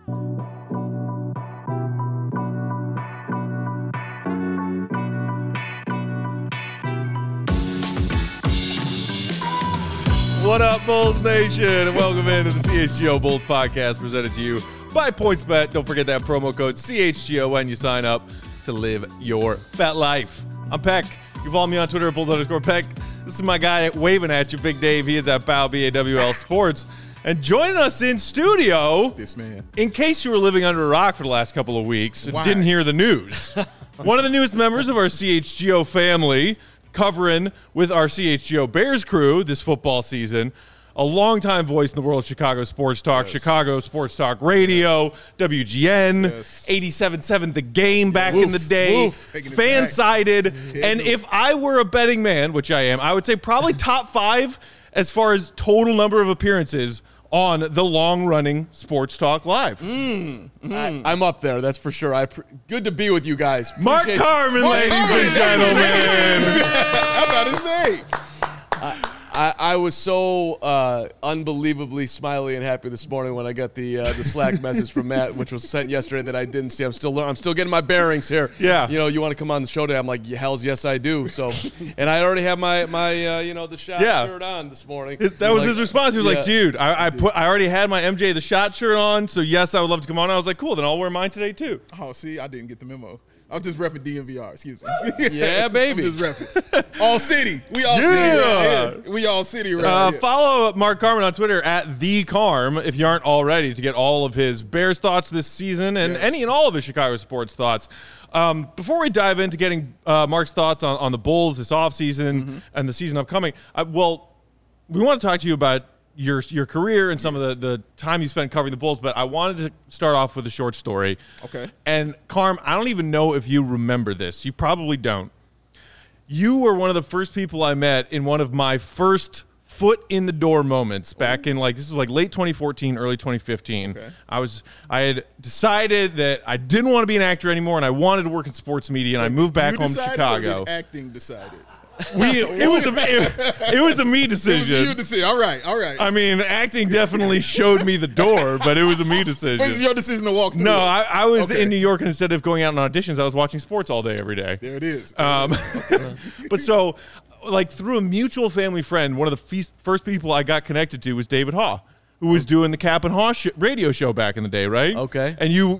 What up, Bulls Nation? And welcome into the CHGO Bulls podcast presented to you by PointsBet. Don't forget that promo code CHGO when you sign up to live your bet life. I'm Peck. You can follow me on Twitter at Bulls_Peck. This is my guy waving at you, Big Dave. He is at BAW, BAWL Sports. And joining us in studio, this man, in case you were living under a rock for the last couple of weeks and didn't hear the news, one of the newest members of our CHGO family, covering with our CHGO Bears crew this football season, a longtime voice in the world of Chicago Sports Talk, Chicago Sports Talk Radio, WGN, 87.7 The Game back in the day, fan-sided, and if I were a betting man, which I am, I would say probably top 5 as far as total number of appearances on the long-running Sports Talk Live. I'm up there, that's for sure. Good to be with you guys. Mark Carman, ladies and gentlemen. How about his name? I was so unbelievably smiley and happy this morning when I got the Slack message from Matt, which was sent yesterday that I didn't see. I'm still getting my bearings here. Yeah. You know, you want to come on the show today? I'm like, hells yes, I do. So, and I already have my the shot shirt on this morning. That was his response. He was like, dude, I already had my MJ the Shot shirt on, so yes, I would love to come on. I was like, cool, then I'll wear mine today too. Oh, see, I didn't get the memo. I was just repping DNVR, excuse me. Yeah, baby. I'm just repping. All city. We all city right here. We all city right here. Follow Mark Carman on Twitter at TheCarm if you aren't already to get all of his Bears thoughts this season and any and all of his Chicago sports thoughts. Before we dive into getting Mark's thoughts on the Bulls this offseason and the season upcoming, we want to talk to you about your career and some of the time you spent covering the Bulls, but I wanted to start off with a short story. Okay. And Carm, I don't even know if you remember this. You probably don't. You were one of the first people I met in one of my first foot in the door moments back in this was late 2014, early 2015. Okay. I had decided that I didn't want to be an actor anymore and I wanted to work in sports media, and I moved back home to Chicago. Or did acting decided? It was a me decision. It was you decision. All right. I mean, acting definitely showed me the door, but it was a me decision. But it's your decision to walk through. No, I was in New York, and instead of going out on auditions, I was watching sports all day, every day. There it is. But so, through a mutual family friend, one of the first people I got connected to was David Haw, who was doing the Cap and Haw radio show back in the day, right? Okay. And you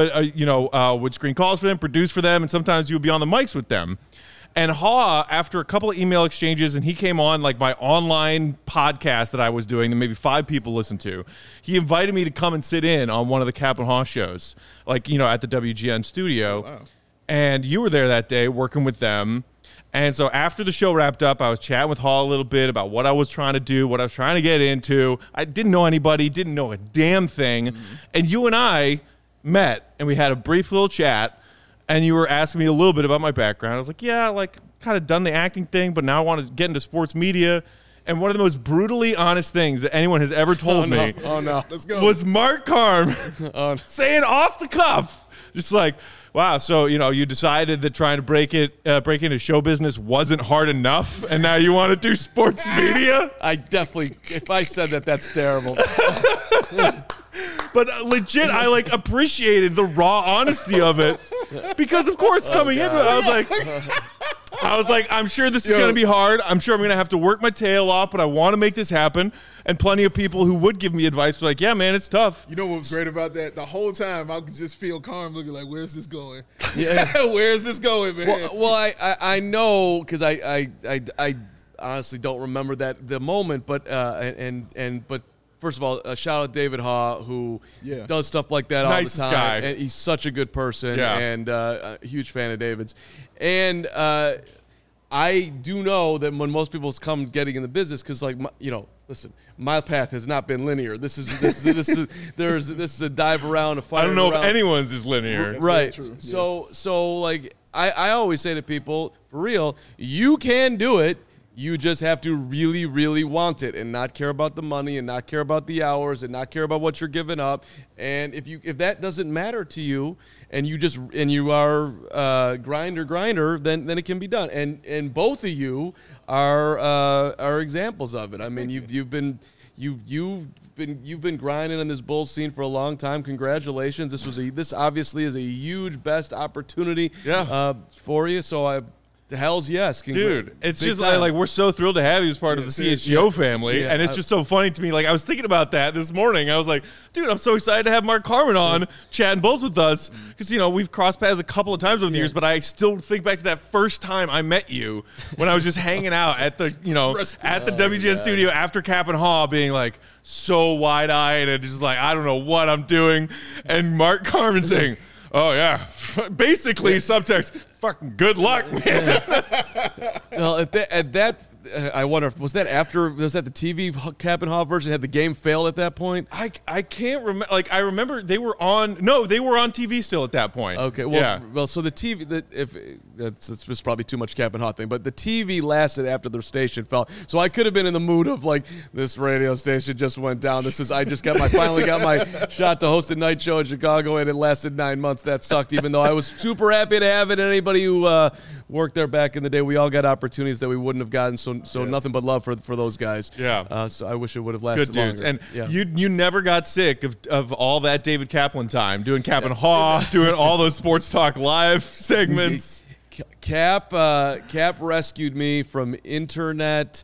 would screen calls for them, produce for them, and sometimes you would be on the mics with them. And Haw, after a couple of email exchanges, and he came on my online podcast that I was doing that maybe 5 people listened to, he invited me to come and sit in on one of the Cap and Haw shows, at the WGN studio. Oh, wow. And you were there that day working with them. And so after the show wrapped up, I was chatting with Haw a little bit about what I was trying to do, what I was trying to get into. I didn't know anybody, didn't know a damn thing. Mm-hmm. And you and I met, and we had a brief little chat. And you were asking me a little bit about my background. I was like, yeah, kind of done the acting thing, but now I want to get into sports media. And one of the most brutally honest things that anyone has ever told me Let's go. was Mark Carm saying off the cuff, just wow, so, you decided that trying to break into show business wasn't hard enough, and now you want to do sports media? I definitely, if I said that, that's terrible. But legit, I appreciated the raw honesty of it because, of course, coming into it, I was like, I'm sure this is going to be hard. I'm sure I'm going to have to work my tail off, but I want to make this happen. And plenty of people who would give me advice were like, yeah, man, it's tough. You know what was great about that? The whole time, I could just feel Carm looking like, where's this going? Yeah. Where's this going, man? Well, I know, because I honestly don't remember the moment, but but first of all, shout out David Haw, who does stuff like that all the time. Guy. And he's such a good person, and a huge fan of David's. And I do know that when most people come getting in the business, because listen, my path has not been linear. This is a dive around, a fight. I don't know if anyone's is linear. That's right. True. So I always say to people, for real, you can do it. You just have to really, really want it and not care about the money and not care about the hours and not care about what you're giving up. And if that doesn't matter to you and you are grinder, then it can be done. And both of you are examples of it. I mean, you've been you've been grinding on this Bulls scene for a long time. Congratulations. This obviously is a huge best opportunity for you. So hell's yes. Dude, it's just like we're so thrilled to have you as part of the CHGO family. And it's just so funny to me. Like, I was thinking about that this morning. I was like, dude, I'm so excited to have Mark Carman on chatting Bulls with us. Because, we've crossed paths a couple of times over the years, but I still think back to that first time I met you when I was just hanging out at the, at the WGN studio after Cap and Haw, being like so wide-eyed and just like, I don't know what I'm doing. And Mark Carman saying, oh, yeah. Basically, subtext, fucking good luck, man. Well, at that, I wonder, was that the TV Cap and Haw version? Had the game failed at that point? I can't remember. Like, I remember they were on TV still at that point. Okay, well, so the TV, it's probably too much Cap and Haw thing, but the TV lasted after the station fell. So I could have been in the mood of like, this radio station just went down. I finally got my shot to host a night show in Chicago, and it lasted 9 months. That sucked, even though I was super happy to have it. Anybody who worked there back in the day, we all got opportunities that we wouldn't have gotten. So nothing but love for those guys. Yeah. So I wish it would have lasted good dudes. longer. And you never got sick of all that David Kaplan time, doing Cap and Haw, doing all those Sports Talk Live segments. Cap rescued me from internet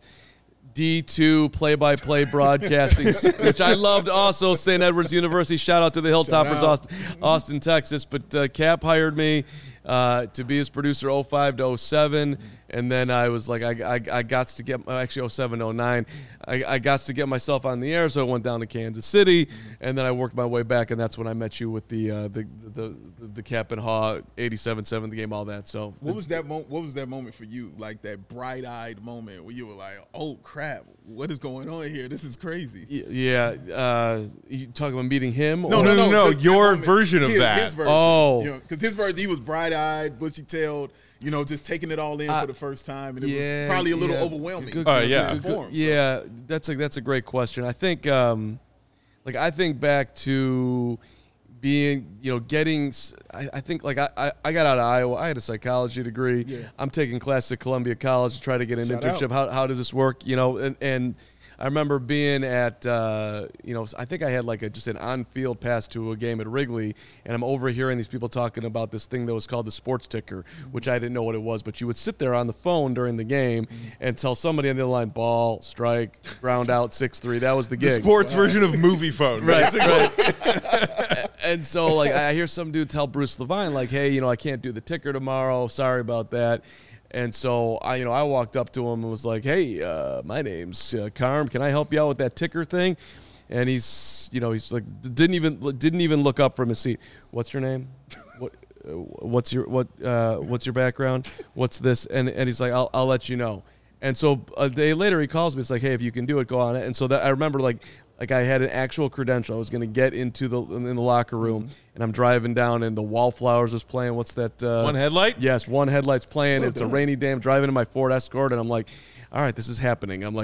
D2 play-by-play broadcasting, which I loved also. St. Edward's University. Shout out to the Hilltoppers, Austin, Texas. But Cap hired me to be his producer 05 to 07. And then I was like, I got to get, actually 07, 09. I got to get myself on the air, so I went down to Kansas City, and then I worked my way back, and that's when I met you with the Cap and Haw 87-7 the game, all that. So what was that moment for you? Like that bright-eyed moment where you were like, "Oh crap, what is going on here? This is crazy." Yeah. You talking about meeting him? No. Your version of that. His version. Because his version, he was bright-eyed, bushy-tailed. Just taking it all in for the first time, and it was probably a little overwhelming. That's a great question. I think, I think back to being, getting. I think I got out of Iowa. I had a psychology degree. Yeah. I'm taking classes at Columbia College to try to get an internship. How does this work? And I remember being at, I think I had just an on-field pass to a game at Wrigley, and I'm overhearing these people talking about this thing that was called the sports ticker, which I didn't know what it was, but you would sit there on the phone during the game and tell somebody on the other line, ball, strike, ground out, 6-3. That was the gig. The sports version of movie phone, basically. Right. And so, I hear some dude tell Bruce Levine, hey, I can't do the ticker tomorrow. Sorry about that. And so I walked up to him and was like, "Hey, my name's Carm. Can I help you out with that ticker thing?" And he's like, didn't even look up from his seat. What's your name? What's your background? What's this? And he's like, I'll let you know. And so a day later he calls me. It's like, "Hey, if you can do it, go on it." And so that I remember I had an actual credential. I was going to get in the locker room, and I'm driving down, and the Wallflowers was playing. What's that? One Headlight? Yes, One Headlight's playing. It's a rainy day. I'm driving in my Ford Escort, and I'm like, all right, this is happening. I'm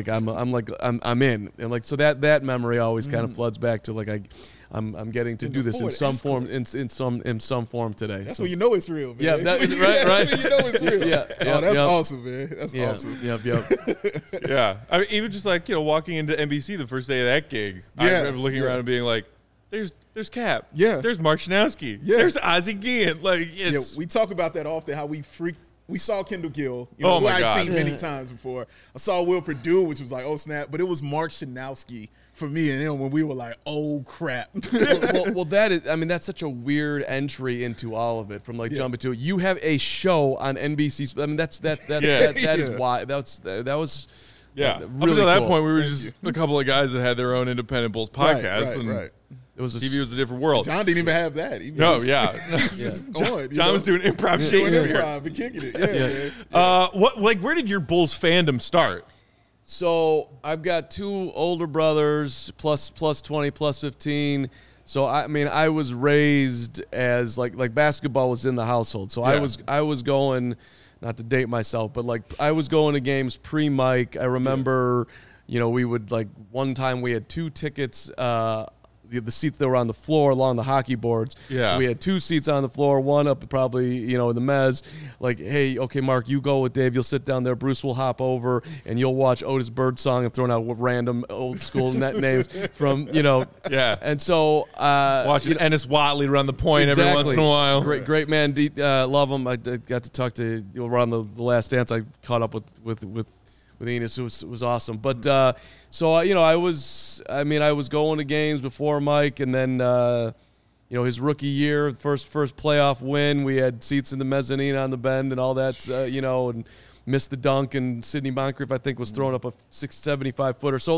in. And so that memory always kind of floods back to I'm getting to do this in some form in some form today. That's when you know it's real, man. Yeah, right. That's when you know it's real. That's awesome, man. That's awesome. Yep. Yeah. I mean, even just walking into NBC the first day of that gig, I remember looking around and being like, "There's Cap. Yeah. There's Mark Schanowski. Yeah. There's Ozzie Guillen." We talk about that often. How we saw Kendall Gill, who my I'd God. seen many times before. I saw Will Perdue, which was like, oh snap, but it was Mark Schanowski for me and him when we were like, oh crap. well, that's such a weird entry into all of it. From jumping to you have a show on NBC. I mean, that is why that was. Yeah, really up until that cool. point, we were just a couple of guys that had their own Independent Bulls podcast, Right. It was TV was a different world. John didn't even have that. John was doing improv Shakespeare. Improv and kicking it. Yeah. Where did your Bulls fandom start? So I've got two older brothers, plus 20, plus 15. So I was raised as like basketball was in the household. So I was going, not to date myself, but I was going to games pre-Mike. I remember, we would one time we had 2 tickets. the seats that were on the floor along the hockey boards. Yeah. So we had 2 seats on the floor, one up probably, in the mezz. Like, hey, okay, Mark, you go with Dave. You'll sit down there. Bruce will hop over, and you'll watch Otis Birdsong and throwing out random old school net names from, Yeah. And so watching Ennis Watley run the point every once in a while. Great man. Love him. I got to talk to around the Last Dance. I caught up with Enos. It was awesome. But I was going to games before Mike, and then his rookie year, first playoff win, we had seats in the mezzanine on the bend and all that, and missed the dunk, and Sidney Moncrief I think was throwing up a 675 footer. So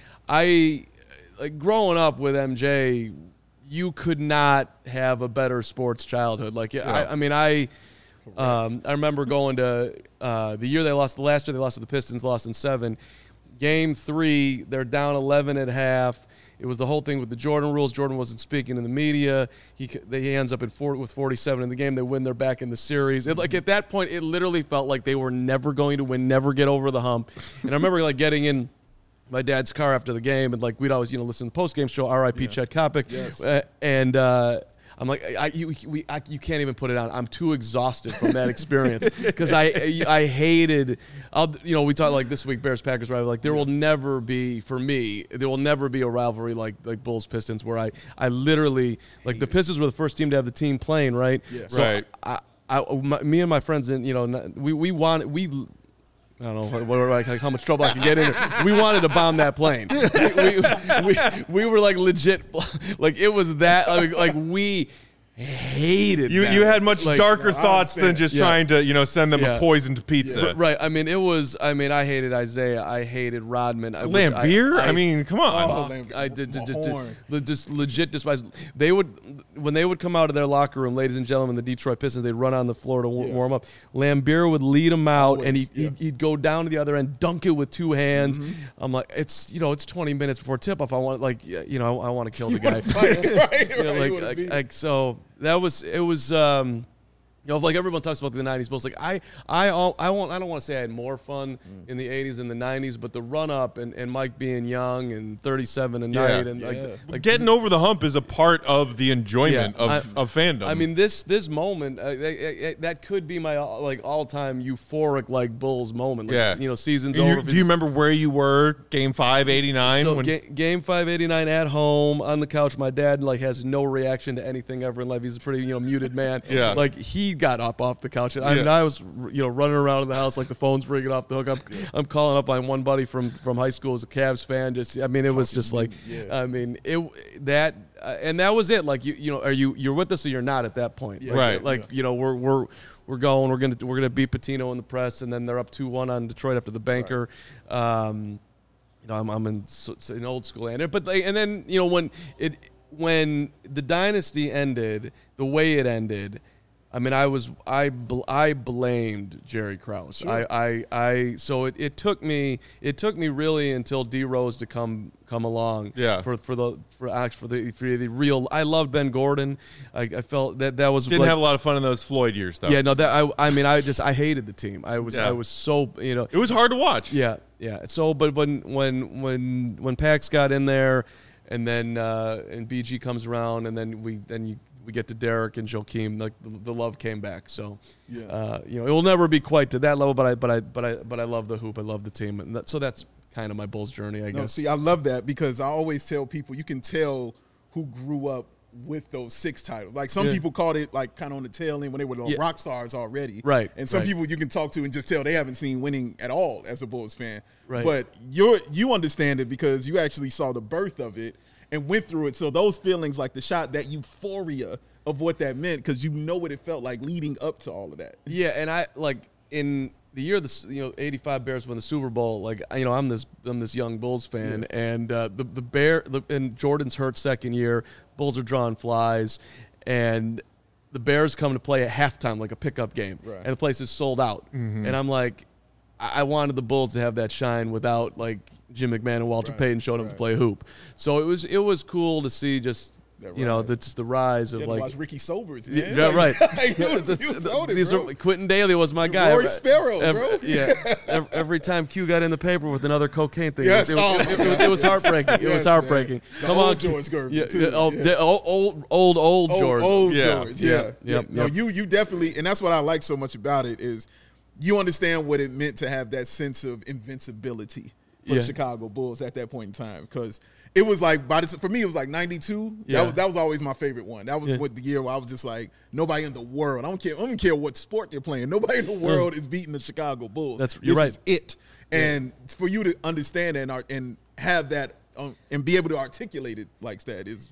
growing up with MJ, you could not have a better sports childhood. I remember going to the year they lost. The last year they lost to the Pistons, lost in 7. Game 3, they're down 11 at half. It was the whole thing with the Jordan rules. Jordan wasn't speaking in the media. He ends up with 47 in the game. They win. They're back in the series. At that point, it literally felt like they were never going to win, never get over the hump. And I remember getting in my dad's car after the game, and we'd always listen to the post-game show, R.I.P. Chet Kopic. Yes. I'm like, you can't even put it on. I'm too exhausted from that experience because I hated. We talked this week Bears Packers rivalry. There will never be, for me, there will never be a rivalry like Bulls Pistons where I literally the Pistons were the first team to have the team playing, right? Yeah. So right. Me and my friends, and I don't know how much trouble I could get in. We wanted to bomb that plane. We were legit, it was that we hated you. That. You had much darker thoughts than just trying to send them a poisoned pizza. Yeah. Right. I hated Isaiah. I hated Rodman. Lambeer. Come on. I just legit despised. When they would come out of their locker room, ladies and gentlemen, the Detroit Pistons, they'd run on the floor to warm up. Lambeer would lead them out, and he'd go down to the other end, dunk it with 2 hands. Mm-hmm. I'm like, it's 20 minutes before tip off. I want I want to kill the guy. So that was it. Was everyone talks about the 90s Bulls. I don't want to say I had more fun in the 80s than the 90s, but the run up and Mike being young and 37 a night and getting over the hump is a part of the enjoyment of fandom. I mean, this moment that could be my all-time euphoric Bulls moment. Season's over. Do you remember where you were Game 5 '89? So Game 5 '89 at home on the couch. My dad has no reaction to anything ever in life. He's a pretty muted man. Yeah. He got up off the couch, and I was running around in the house the phone's ringing off the hook. I'm calling up on one buddy from high school who's a Cavs fan. It was just and that was it. You're with us or you're not at that point. Right. We're going. We're gonna beat Patino in the press, and then they're up 2-1 on Detroit after the banker. Right. I'm in old school land, but and then when the dynasty ended the way it ended. I blamed Jerry Krause. Sure. So it took me really until D Rose to come along. Yeah. For the real. I loved Ben Gordon. I felt that was didn't have a lot of fun in those Floyd years though. Yeah. No. I hated the team. I was so It was hard to watch. Yeah. Yeah. So but when Pax got in there, and then and BG comes around, and then we get to Derek and Joakim, the love came back. So, it will never be quite to that level, but I love the hoop. I love the team, and so that's kind of my Bulls journey, I guess. See, I love that because I always tell people you can tell who grew up with those 6 titles. Some people called it kind of on the tail end when they were rock stars already. Right. And some people you can talk to and just tell they haven't seen winning at all as a Bulls fan. Right. But you understand it because you actually saw the birth of it and went through it. So those feelings, the shot, that euphoria of what that meant, because what it felt like leading up to all of that. Yeah, and I in the year the 85 Bears won the Super Bowl. I'm this young Bulls fan, and and Jordan's hurt second year. Bulls are drawing flies, and the Bears come to play at halftime a pickup game, right. and the place is sold out. Mm-hmm. And I'm I wanted the Bulls to have that shine without Jim McMahon and Walter Payton showing up to play hoop. So it was cool to see just you know, that's the rise of like watch Ricky Sobers, man. Yeah, right. he was on it, These bro. are, Quentin Daly was my guy. Roy Sparrow, bro. Every time Q got in the paper with another cocaine thing, Yes. it was heartbreaking. It was heartbreaking. The Come old on, George Gervin, yeah, too. old George. Old Yeah. George, yeah. Yep. No, you definitely, and that's what I like so much about it is you understand what it meant to have that sense of invincibility for the Chicago Bulls at that point in time, because it was like for me it was like 92. Yeah. That was always my favorite one. That was what the year where I was just like, nobody in the world, I don't care what sport they're playing, nobody in the world is beating the Chicago Bulls. You're right. This is it. And for you to understand that and have that and be able to articulate it like that is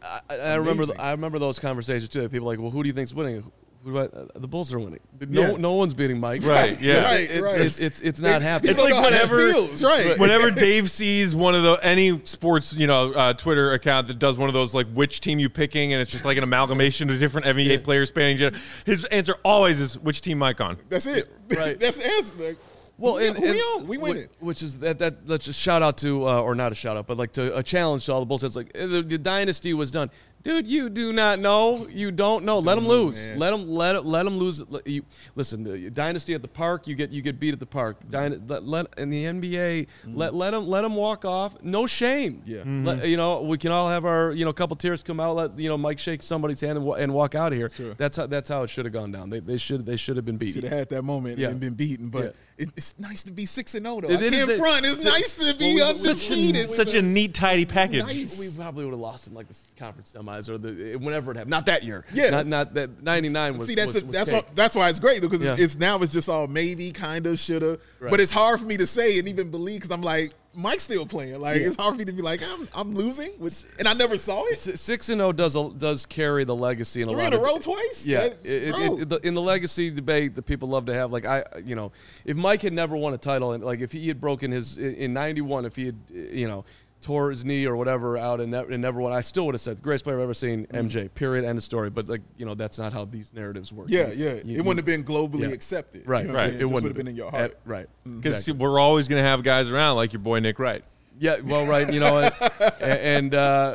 I remember those conversations too. People like, well, who do you think's winning? The Bulls are winning. No one's beating Mike. Right. Yeah. Right. It's not happening. It's like whenever whenever Dave sees one of any sports, Twitter account that does one of those like which team you picking, and it's just like an amalgamation of different NBA players spanning. His answer always is which team Mike on. That's it. Right. That's the answer. Like, well, we win it. Which is that. Let's just shout out to, or not a shout out, but like to a challenge to all the Bulls. It's like the dynasty was done. Dude, you do not know. You don't know. Let them lose. Man. Let them lose. Listen, the dynasty at the park. You get beat at the park. In the NBA, let them walk off. No shame. Yeah. We can all have our couple tears come out. Let Mike shake somebody's hand and walk out of here. Sure. That's how it should have gone down. They should have been beaten. Should have had that moment and been beaten. But it's nice to be 6-0 though. It's nice to be undefeated. Such a neat, tidy package. Nice. We probably would have lost in like the conference semis or whenever it happened. Not that year. Yeah. Not that 99 was. See, was that's why it's great because Yeah. it's just all maybe, kind of, shoulda. Right. But it's hard for me to say and even believe because I'm like, Mike's still playing. Like it's hard for me to be like, I'm losing, and I never saw it. 6-0 does carry the legacy in a 3 lot in a of row twice. Yeah, Bro. in the legacy debate that people love to have, like if Mike had never won a title, and like if he had broken his in '91, if he had tore his knee or whatever out and never won, I still would have said greatest player I've ever seen, MJ. Period. End of story. But that's not how these narratives work. It wouldn't have been globally accepted. Right, You know what I'm right. saying? It just wouldn't would have been in your heart. Right. Because Exactly. we're always going to have guys around like your boy Nick Wright. Yeah, well, right, and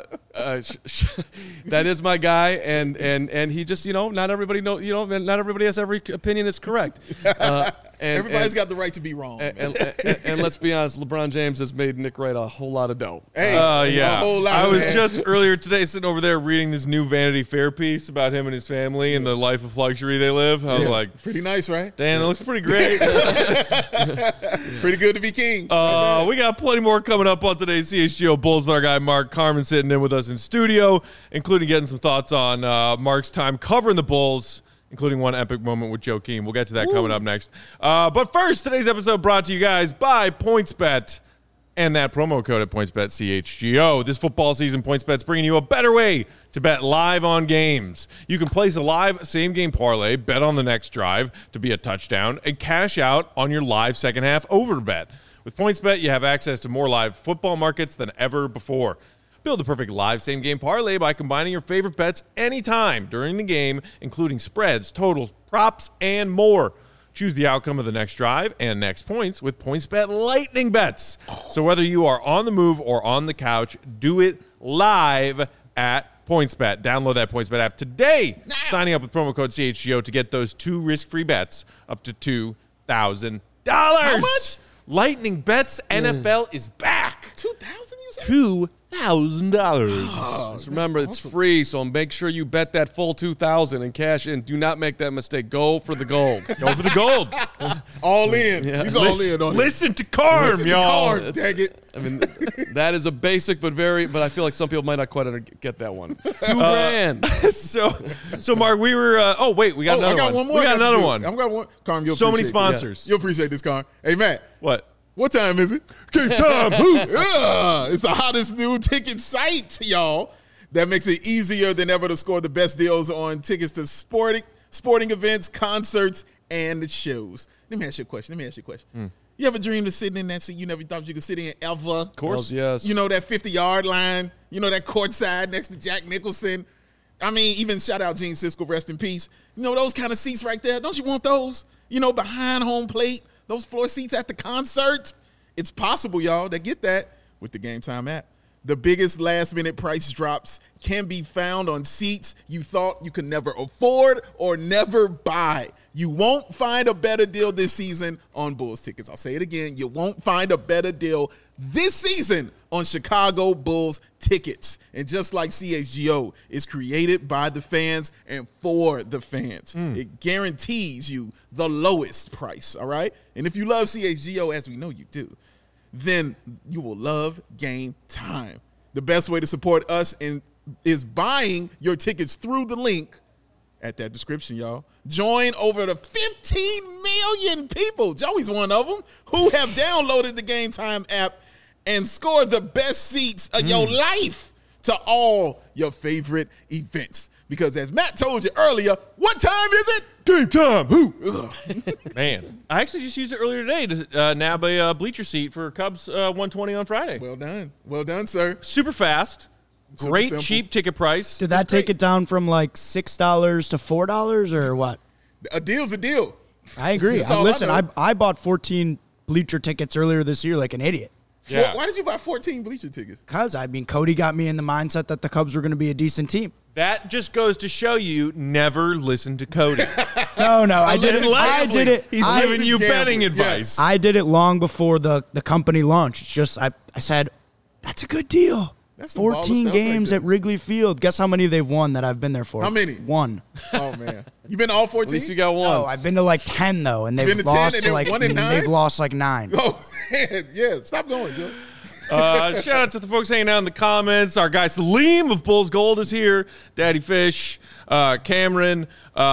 that is my guy, and he just, not everybody not everybody has every opinion is correct. Everybody's got the right to be wrong. And let's be honest, LeBron James has made Nick Wright a whole lot of dough. Hey, Yeah. a whole lot, I was man. just earlier today sitting over there reading this new Vanity Fair piece about him and his family and the life of luxury they live. I was like, pretty nice, right? damn, that looks pretty great. Pretty good to be king. We got plenty more coming up on today's CHGO Bulls with our guy Mark Carman sitting in with us in studio, including getting some thoughts on Mark's time covering the Bulls, including one epic moment with Joe Keem. We'll get to that coming up next. But first, today's episode brought to you guys by PointsBet and that promo code at PointsBet CHGO. This football season, PointsBet's bringing you a better way to bet live on games. You can place a live same-game parlay, bet on the next drive to be a touchdown, and cash out on your live second-half over bet. With PointsBet, you have access to more live football markets than ever before. Build the perfect live same-game parlay by combining your favorite bets anytime during the game, including spreads, totals, props, and more. Choose the outcome of the next drive and next points with PointsBet Lightning Bets. So whether you are on the move or on the couch, do it live at PointsBet. Download that PointsBet app today. Signing up with promo code CHGO to get those 2 risk-free bets up to $2,000. How much? Lightning Bets NFL is back. 2,000, you said? $2,000. Just remember, it's free, so make sure you bet that full $2,000 and cash in. Do not make that mistake. Go for the gold. Go for the gold. All in. Yeah. He's all in on it. Listen to Carm, Listen to y'all. Carm, dang it. I mean, that is a basic, but I feel like some people might not quite get that one. $2,000. So Mark, we were. We got another I got one more. We got another one. I've got one. Carm, you'll So many appreciate this. sponsors. You'll appreciate this, Carm. Hey, Matt. What time is it? Game time. It's the hottest new ticket site, y'all. That makes it easier than ever to score the best deals on tickets to sporting events, concerts, and shows. Let me ask you a question. You ever dreamed of sitting in that seat you never thought you could sit in ever? Of course, yes. You know, that 50-yard line. You know, that courtside next to Jack Nicholson. I mean, even shout out Gene Siskel, rest in peace. You know, those kind of seats right there. Don't you want those? You know, behind home plate, those floor seats at the concert. It's possible, y'all, to get that with the Game Time app. The biggest last-minute price drops can be found on seats you thought you could never afford or never buy. You won't find a better deal this season on Bulls tickets. I'll say it again. You won't find a better deal this season on Chicago Bulls tickets. And just like CHGO is created by the fans and for the fans, it guarantees you the lowest price, all right? And if you love CHGO, as we know you do, then you will love Game Time. The best way to support us is buying your tickets through the link at that description, y'all. Join over the 15 million people, Joey's one of them, who have downloaded the Game Time app and scored the best seats of your life to all your favorite events. Because as Matt told you earlier, what time is it? Game time. Who? Man, I actually just used it earlier today to nab a bleacher seat for Cubs 120 on Friday. Well done. Well done, sir. Super fast. Great simple. cheap ticket price. Did that take it down from like $6 to $4 or what? A deal's a deal. I agree. That's all I Listen, know. I bought 14 bleacher tickets earlier this year like an idiot. Yeah. Why did you buy 14 bleacher tickets? Because, Cody got me in the mindset that the Cubs were going to be a decent team. That just goes to show you never listen to Cody. No, I did it. I did it. He's I- giving you betting gambling. advice. I did it long before the company launched. It's just, I said, that's a good deal. That's some baller 14 stuff games right at there. Wrigley Field. Guess how many they've won that I've been there for? How many? 1. Oh, man. You been to all 14? At least you got one. No, I've been to like 10 though, and been they've to 10 lost and to they're like 1 and 9? they've lost like 9. Oh, man. Yeah. Stop going, Joe. Shout out to the folks hanging out in the comments. Our guy Salim of Bulls Gold is here. Daddy Fish, Cameron.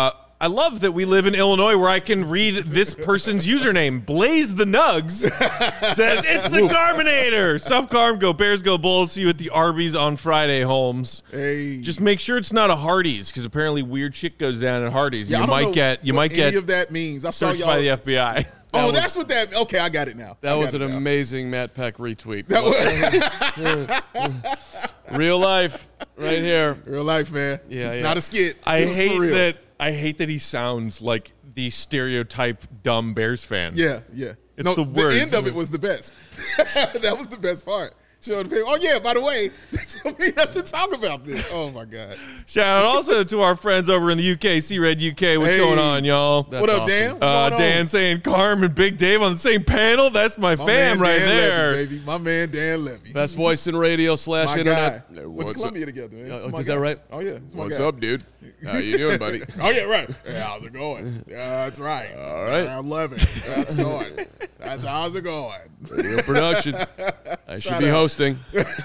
I love that we live in Illinois where I can read this person's username. Blaze the Nugs says, it's the Carminator. Sup, Carm. Go Bears, go Bulls. See you at the Arby's on Friday, Holmes. Hey. Just make sure it's not a Hardee's because apparently weird shit goes down at Hardee's. Yeah, I you don't know might get any of that means. I saw searched y'all. by the FBI. Oh, that's what that. Okay, I got it now. That I was got an it now. amazing Matt Peck retweet. That was Real life, right here. real life, man. Yeah, it's yeah. not a skit. I It was for real. hate that he sounds like the stereotype dumb Bears fan. Yeah. It's No, the the words. end of it was the best. That was the best part. Showing people, oh, yeah, by the way, they told me not to talk about this. Oh, my God. Shout out also to our friends over in the UK, C-Red UK. What's Hey. going on, y'all? That's what up, awesome. Dan? What's going on? Dan saying Carm and Big Dave on the same panel. That's my My fam man right Dan there. Levy, baby. My man, Dan Levy. Best voice in radio / my internet. guy. Went to Columbia together, man. It's my Is guy. that right? Oh, yeah. It's my What's guy. up, dude? How you doing, buddy? Oh, yeah, right. Yeah, how's it going? Yeah, that's right. All right. I love it. That's going. That's how's it going. Radio production. I should Shout be out. hosting.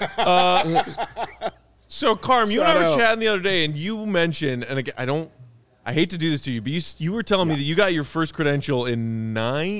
So, Carm, you and Shout I were out. chatting the other day, and you mentioned, and again, I hate to do this to you, but you were telling me that you got your first credential in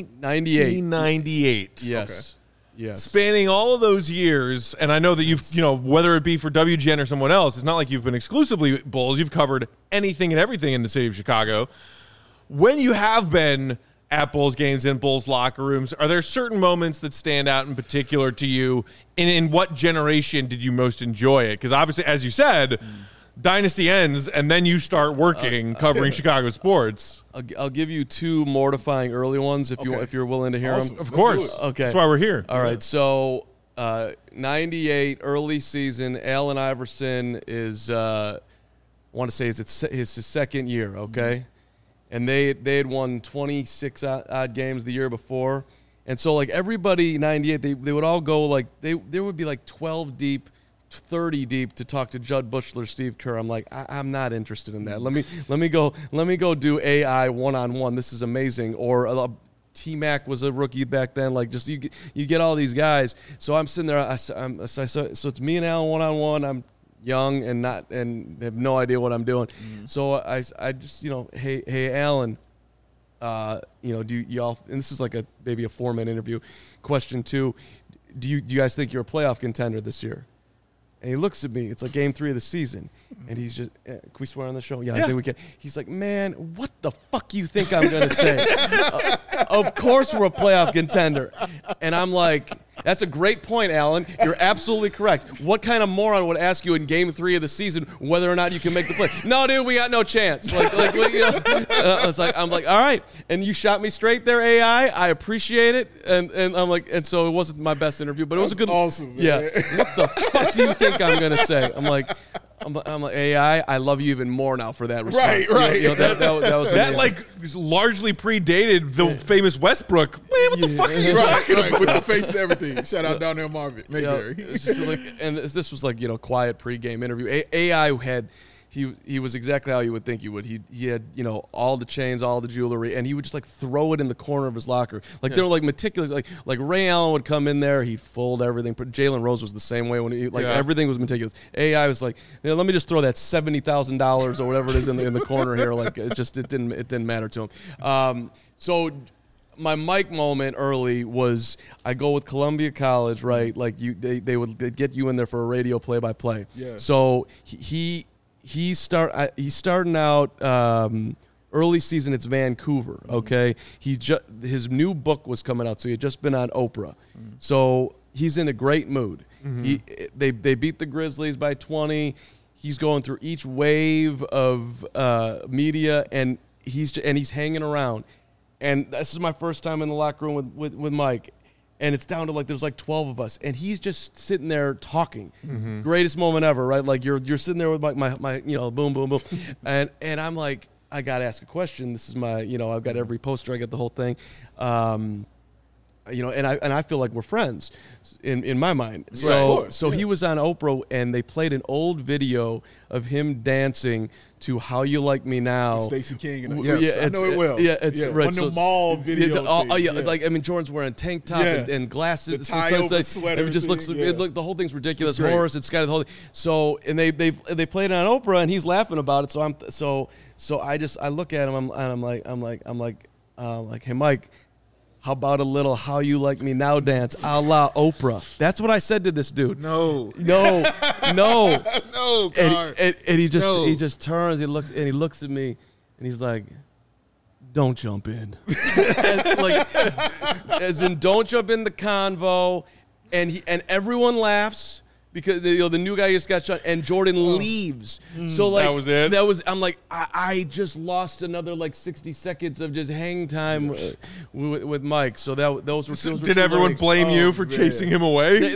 1998. Yes. Yes. Spanning all of those years, and I know that you've, whether it be for WGN or someone else, it's not like you've been exclusively Bulls. You've covered anything and everything in the city of Chicago. When you have been at Bulls games in Bulls locker rooms, are there certain moments that stand out in particular to you? And in what generation did you most enjoy it? Because obviously, as you said, Dynasty ends, and then you start working covering Chicago sports. I'll give you 2 mortifying early ones if you're willing to hear Awesome. them. Of Let's course. do it. Okay. That's why we're here. All right, so 98 early season. Allen Iverson is I want to say it's his second year. Okay, and they had won 26 odd games the year before, and so like everybody 98 they would all go like there would be like 12 deep. 30 deep to talk to Judd Bushler, Steve Kerr. I'm like, I'm not interested in that. Let me go do AI one-on-one. This is amazing. Or T-Mac was a rookie back then. Like, just you get all these guys. So I'm sitting there. So it's me and Alan one-on-one. I'm young and have no idea what I'm doing. So I just hey Alan, do y'all? And this is like maybe a 4-minute interview. Question 2: Do you guys think you're a playoff contender this year? And he looks at me. It's like game 3 of the season. And he's just, can we swear on the show? Yeah, I think we can. He's like, man, what the fuck you think I'm going to say? Of course we're a playoff contender. And I'm like, That's a great point, Alan. You're absolutely correct. What kind of moron would ask you in Game 3 of the season whether or not you can make the play? No, dude, we got no chance. I'm like, all right. And you shot me straight there, AI. I appreciate it. And I'm like, and so it wasn't my best interview, but it was a good. Awesome, man. Yeah. What the fuck do you think I'm gonna say? I'm like, AI, I love you even more now for that response. Right. That was That amazing. largely predated the famous Westbrook. Man, what the fuck are you talking about? With the face and everything. Shout out down there, Marvin. Mayberry. It's just and this was like, quiet pregame interview. AI had. He was exactly how you would think he would. He had, all the chains, all the jewelry, and he would just throw it in the corner of his locker. They were meticulous. Like Ray Allen would come in there, he'd fold everything. But Jalen Rose was the same way when everything was meticulous. AI was like, let me just throw that $70,000 or whatever it is in the corner here. It didn't matter to him. So my Mike moment early was I go with Columbia College, right? They'd get you in there for a radio play-by-play. Yeah. So he's starting out early season. It's Vancouver, okay? His new book was coming out, so he had just been on Oprah. So he's in a great mood. They beat the Grizzlies by 20. He's going through each wave of media, and he's hanging around. And this is my first time in the locker room with Mike. And it's down to there's 12 of us, and he's just sitting there talking. Greatest moment ever, right? You're sitting there with my boom, boom, boom, and I'm like, I gotta ask a question. This is my, I've got every poster, I got the whole thing, and I feel like we're friends in my mind. So he was on Oprah, and they played an old video of him dancing to "How You Like Me Now." Stacey King, I know it well. Yeah, it's right. One of the mall videos. Jordan's wearing tank top and glasses, the tie over sweater. It just looks. The whole thing's ridiculous. Horace, it's got the whole thing. So and they played it on Oprah, and he's laughing about it. So I look at him, and I'm like, hey Mike, how about a little "How You Like Me Now" dance a la Oprah? That's what I said to this dude. No. No. God. And he just turns, he looks at me, and he's like, "Don't jump in." As in, don't jump in the convo. And everyone laughs. Because the new guy just got shot, and Jordan leaves. So that was it. I'm like, I just lost another 60 seconds of just hang time with Mike. So those were. Did everyone blame you for chasing him away?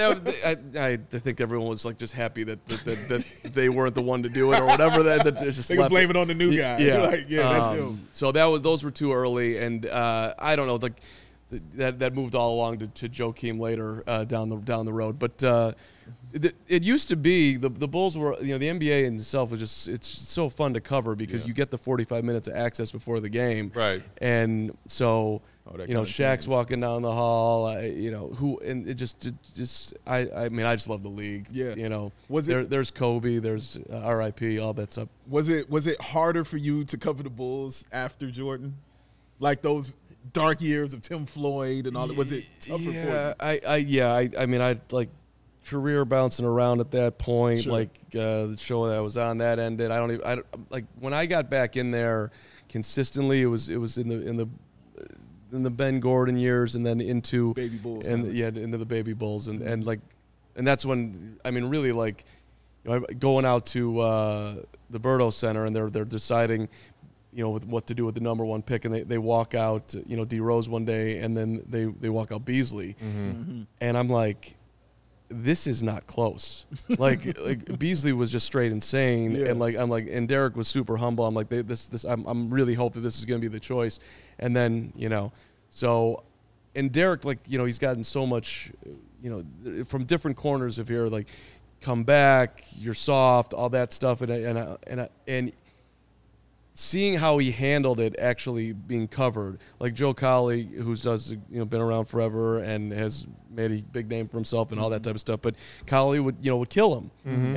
I think everyone was just happy that they weren't the one to do it or whatever. That just they could blame it on the new guy. Yeah, that's him. So those were too early, and I don't know. That moved all along to Joakim later down the road, but. It used to be the Bulls were, the NBA in itself was just, it's so fun to cover because you get the 45 minutes of access before the game. Right. And so, Shaq's walking down the hall, and it just I just love the league. Yeah. There's Kobe, there's RIP, all that stuff. Was it harder for you to cover the Bulls after Jordan? Those dark years of Tim Floyd and all that, was it tougher for you? I career bouncing around at that point, Sure. The show that I was on that ended. When I got back in there consistently, it was in the Ben Gordon years, and then into Baby Bulls, into the Baby Bulls, and that's when really going out to the Berto Center, and they're deciding with what to do with the number one pick, and they walk out D Rose one day, and then they walk out Beasley, and I'm like, this is not close. Beasley was just straight insane, and and Derek was super humble. I'm like, I'm really hoping this is going to be the choice, and then so, and Derek he's gotten so much, from different corners of here, come back, you're soft, all that stuff, and seeing how he handled it actually being covered, like Joe Colley, who's been around forever and has made a big name for himself and all that type of stuff, but Colley would kill him,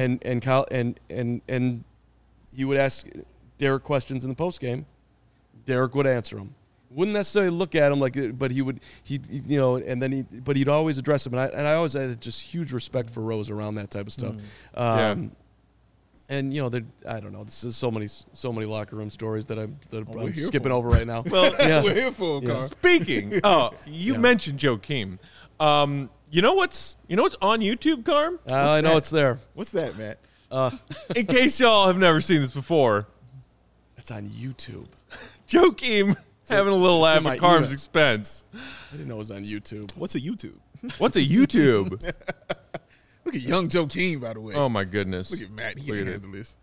and he would ask Derek questions in the post game. Derek would answer them. Wouldn't necessarily look at him but he'd always address him, and I always had just huge respect for Rose around that type of stuff. And I don't know. This is so many locker room stories that I'm here skipping for. over right now. Well, We're here for a car. speaking. You mentioned Joakim. You know what's on YouTube, Carm? I know that? it's there. What's that, Matt? In case y'all have never seen this before, It's on YouTube. Joakim having a little laugh my at Carm's email. expense. I didn't know it was on YouTube. What's a YouTube? What's a YouTube? Look at young Joakim, by the way. Oh my goodness! Look at Matt. He Look can at it. handle this.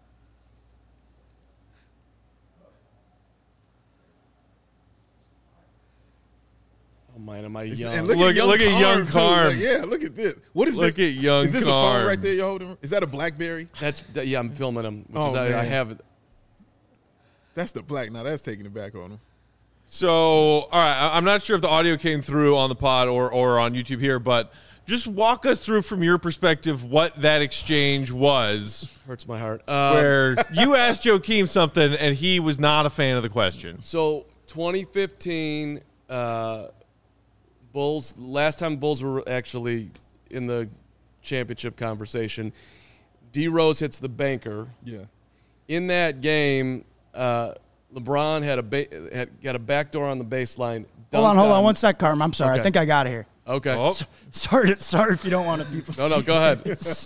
Oh man, am I young? And Look at young too. Carm. Like, yeah, look at this. What is Look that? at young Is this a Carm. phone right there you're holding? Is that a BlackBerry? Yeah, I'm filming them. Which Oh, is I man. have it. That's the black. Now that's taking it back on him. So, all right, I'm not sure if the audio came through on the pod or on YouTube here, but just walk us through from your perspective what that exchange was, Hurts my heart. where you asked Joakim something and he was not a fan of the question. So 2015 Bulls. Last time Bulls were actually in the championship conversation. D Rose hits the banker. Yeah. In that game, LeBron had got a backdoor on the baseline. Hold on 1 sec, Carm. I'm sorry. Okay. I think I got it here. Okay. Oh, Sorry if you don't want to be. No, go ahead.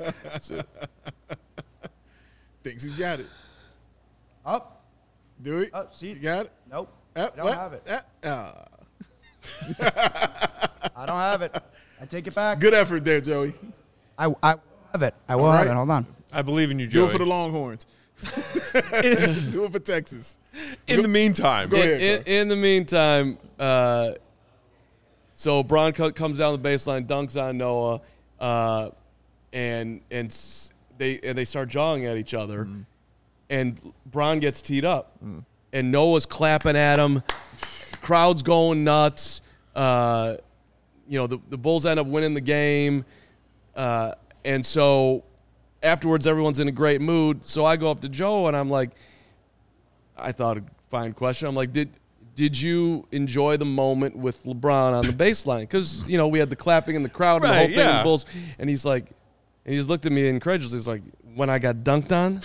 Thinks he got it. Up. Do it. See? You got it? Nope. I don't have it. I don't have it. I take it back. Good effort there, Joey. I have it. I will All have right. it. Hold on. I believe in you, Do Joey. it for the Longhorns. Do it for Texas. In the meantime, Go ahead. In the meantime, so Bron comes down the baseline, dunks on Noah, and they start jawing at each other, and Bron gets teed up, and Noah's clapping at him, crowd's going nuts. The Bulls end up winning the game, and so afterwards everyone's in a great mood. So I go up to Joe and I'm like, I thought a fine question. I'm like, did you enjoy the moment with LeBron on the baseline? Because, we had the clapping in the crowd and the whole Right, thing with yeah. the Bulls. And he's like, he just looked at me incredulously. He's like, when I got dunked on?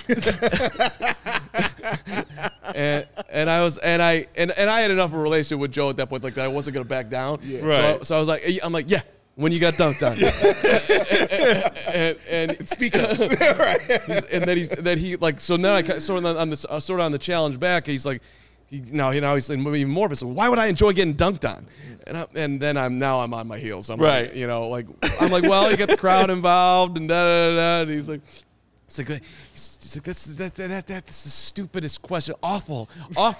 and I had enough of a relationship with Joe at that point, like that I wasn't going to back down. Yeah. Right. So I was like, yeah, when you got dunked on. and Speak up. and then he like, so now I sort of on the challenge back. He's like, now he's like even more. But so why would I enjoy getting dunked on? And then I'm on my heels. I'm Right. like, I'm like, well, you get the crowd involved and da da da. And he's like, that's the stupidest question. Awful.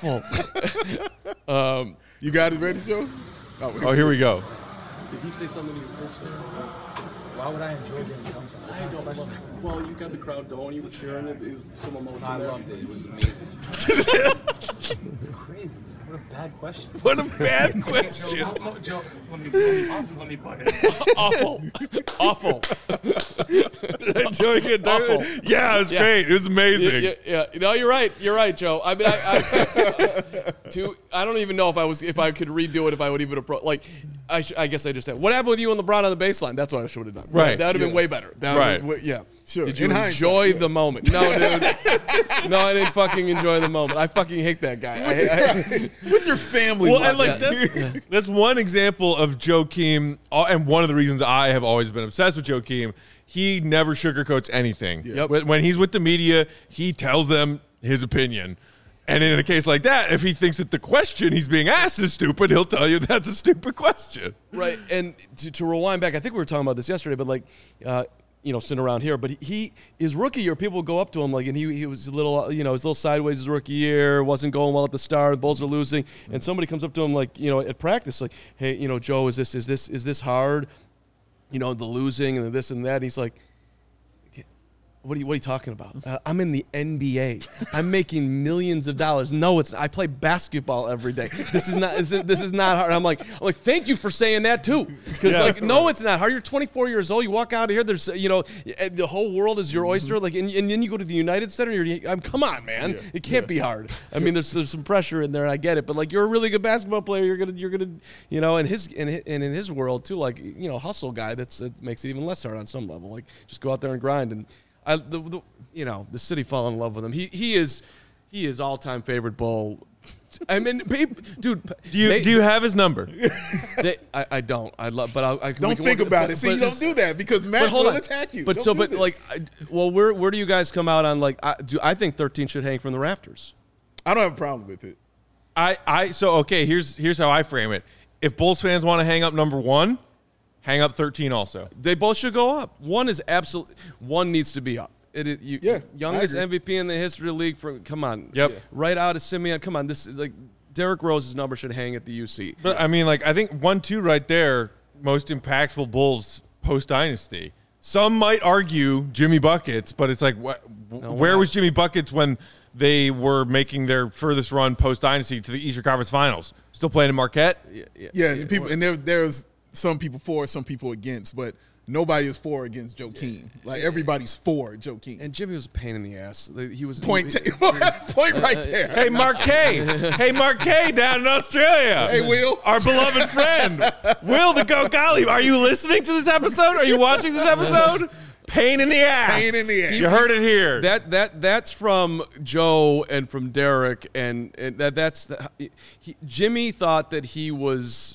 You got it ready, Joe? oh, here we go. Did you say something to your first there? Why would I enjoy getting dunked on? I don't know. Well, you got the crowd going. You was cheering it. It was some emotion I there. loved it. It was amazing. It's crazy. What a bad question. What a bad question. Joe, let me butt in. Awful. Joey get dunked? Awful. Yeah, it was great. It was amazing. Yeah. No, you're right. You're right, Joe. I mean, I don't even know if I could redo it, if I would even approach. Like, I guess I just said, what happened with you and LeBron on the baseline? That's what I should have done. Right. That would have been way better. Right. Yeah. Sure. Did you In enjoy hindsight, the moment? No, dude. No, I didn't fucking enjoy the moment. I fucking hate that guy. With your family. Well, and watching. that's one example of Joakim, and one of the reasons I have always been obsessed with Joakim. He never sugarcoats anything. Yep. When he's with the media, he tells them his opinion. And in a case like that, if he thinks that the question he's being asked is stupid, he'll tell you that's a stupid question. Right, and to rewind back, I think we were talking about this yesterday, but like, sitting around here, but his rookie year, people would go up to him like, and he was a little, he was a little sideways his rookie year, wasn't going well at the start, the Bulls are losing, and somebody comes up to him like, at practice, like, hey, Joe, is this hard? The losing and this and that. And he's like, what are you talking about? I'm in the NBA. I'm making millions of dollars. No, I play basketball every day. This is not hard. I'm like, thank you for saying that too. Because no, it's not hard. You're 24 years old. You walk out of here. There's, the whole world is your oyster. Like, and then you go to the United Center. Come on, man. Yeah. It can't be hard. I mean, there's some pressure in there. And I get it. But like, you're a really good basketball player. You're gonna, in his world too. Like, hustle guy. That makes it even less hard on some level. Like, just go out there and grind. And The city fell in love with him. He is all-time favorite Bull. I mean, dude. Do you have his number? I don't. I love, but I don't think about it. See, you don't do that because Matt will attack you. But where do you guys come out on? Like, I think 13 should hang from the rafters. I don't have a problem with it. Okay. Here's how I frame it. If Bulls fans want to hang up number 1, hang up 13 also. They both should go up. One needs to be up. Youngest MVP in the history of the league. Come on. Yep. Right out of Simeon. Come on. Derrick Rose's number should hang at the UC. But I mean, I think 1-2 right there, most impactful Bulls post dynasty. Some might argue Jimmy Buckets, but it's like, where was Jimmy Buckets when they were making their furthest run post dynasty to the Eastern Conference Finals? Still playing in Marquette. Yeah, and there's some people for, some people against, but nobody is for or against Joakim. Like, everybody's for Joakim. And Jimmy was a pain in the ass. He was point right there. Hey, Marquet down in Australia. Hey, Will. Our beloved friend. Will the Go Golly. Are you listening to this episode? Are you watching this episode? Pain in the ass. Pain in the ass. You heard it here. That's from Joe and from Derek, and Jimmy thought that he was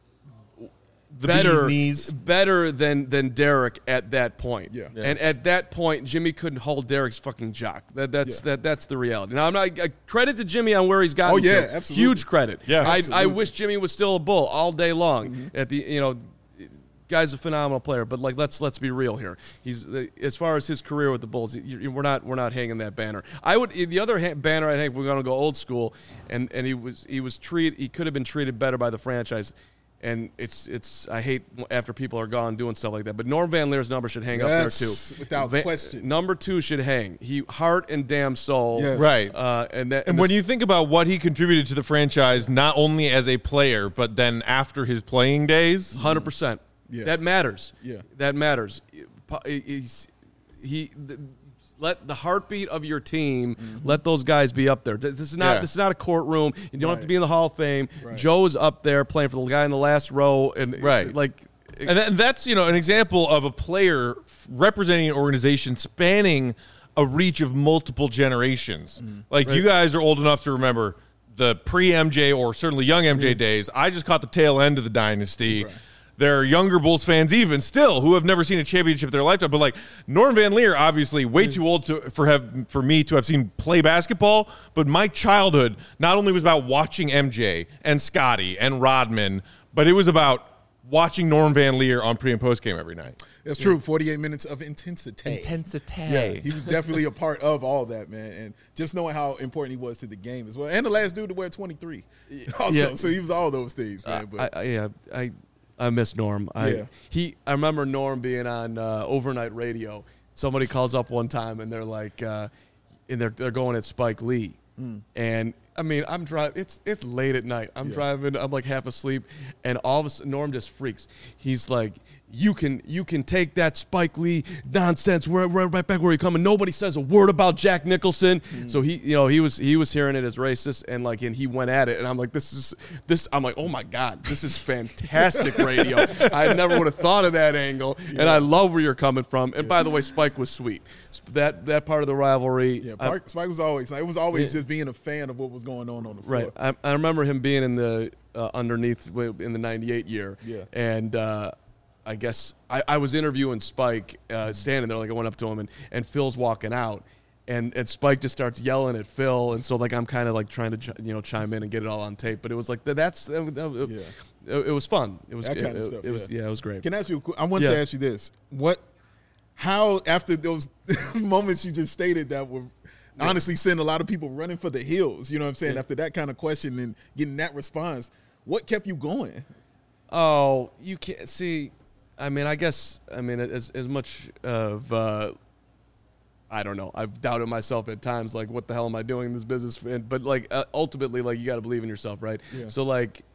better than Derek at that point. Yeah. And at that point, Jimmy couldn't hold Derek's fucking jock. That's the reality. Now, I'm not credit to Jimmy on where he's gotten to. Absolutely. Huge credit. Yeah, I wish Jimmy was still a Bull all day long. Mm-hmm. At the guy's a phenomenal player, but let's be real here. He's as far as his career with the Bulls, we're not hanging that banner. The other banner I think we're gonna go old school, and he could have been treated better by the franchise. And I hate after people are gone doing stuff like that. But Norm Van Leer's number should hang up there too, without question. Number 2 should hang. He heart and damn soul, right? And when you think about what he contributed to the franchise, not only as a player, but then after his playing days, 100%. Yeah. That matters. Yeah. That matters. Let the heartbeat of your team, let those guys be up there. This is not a courtroom. You don't have to be in the Hall of Fame. Right. Joe's up there playing for the guy in the last row, and and that's an example of a player representing an organization spanning a reach of multiple generations. You guys are old enough to remember the pre-MJ or certainly young MJ days. I just caught the tail end of the dynasty. Right. There are younger Bulls fans even still who have never seen a championship in their lifetime. But Norm Van Leer, obviously way too old for me to have seen play basketball. But my childhood not only was about watching MJ and Scotty and Rodman, but it was about watching Norm Van Leer on pre and post game every night. That's true. 48 minutes of intensity. Yeah, he was definitely a part of all that, man. And just knowing how important he was to the game as well. And the last dude to wear 23 also. Yeah. So he was all those things, man. I miss Norm. Yeah. I remember Norm being on overnight radio. Somebody calls up one time and they're like, and they're going at Spike Lee, and I mean I'm driving. It's late at night. I'm driving. I'm like half asleep, and all of a sudden Norm just freaks. He's like, you can take that Spike Lee nonsense. We're right back where you come, and nobody says a word about Jack Nicholson. So he was hearing it as racist, and he went at it, and I'm like, I'm like, oh my God, this is fantastic radio. I never would have thought of that angle, and I love where you're coming from. And by the way, Spike was sweet. That part of the rivalry. Yeah, Spike was always just being a fan of what was going on the floor. Right. I remember him being in the underneath in the '98 year. Yeah. And I guess I was interviewing Spike, standing there, I went up to him, and Phil's walking out, and Spike just starts yelling at Phil, and so I'm kind of trying to chime in and get it all on tape, but it was it was fun. It was that kind of stuff. It was great. Can I ask you? I want to ask you this: how after those moments you just stated that were honestly send a lot of people running for the hills? You know what I'm saying? After that kind of question and getting that response, what kept you going? Oh, you can't see. I mean, as much of I don't know. I've doubted myself at times. What the hell am I doing in this business? But ultimately, you got to believe in yourself, right? Yeah. So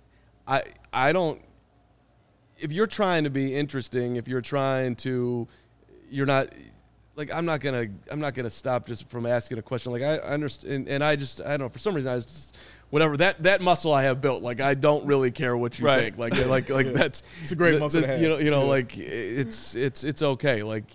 I don't. If you're trying to be interesting, if you're trying to, you're not. I'm not gonna stop just from asking a question. I understand, and I don't know. For some reason, I was just. Whatever that muscle I have built, I don't really care what you think. That's it's a great muscle to have. It's okay.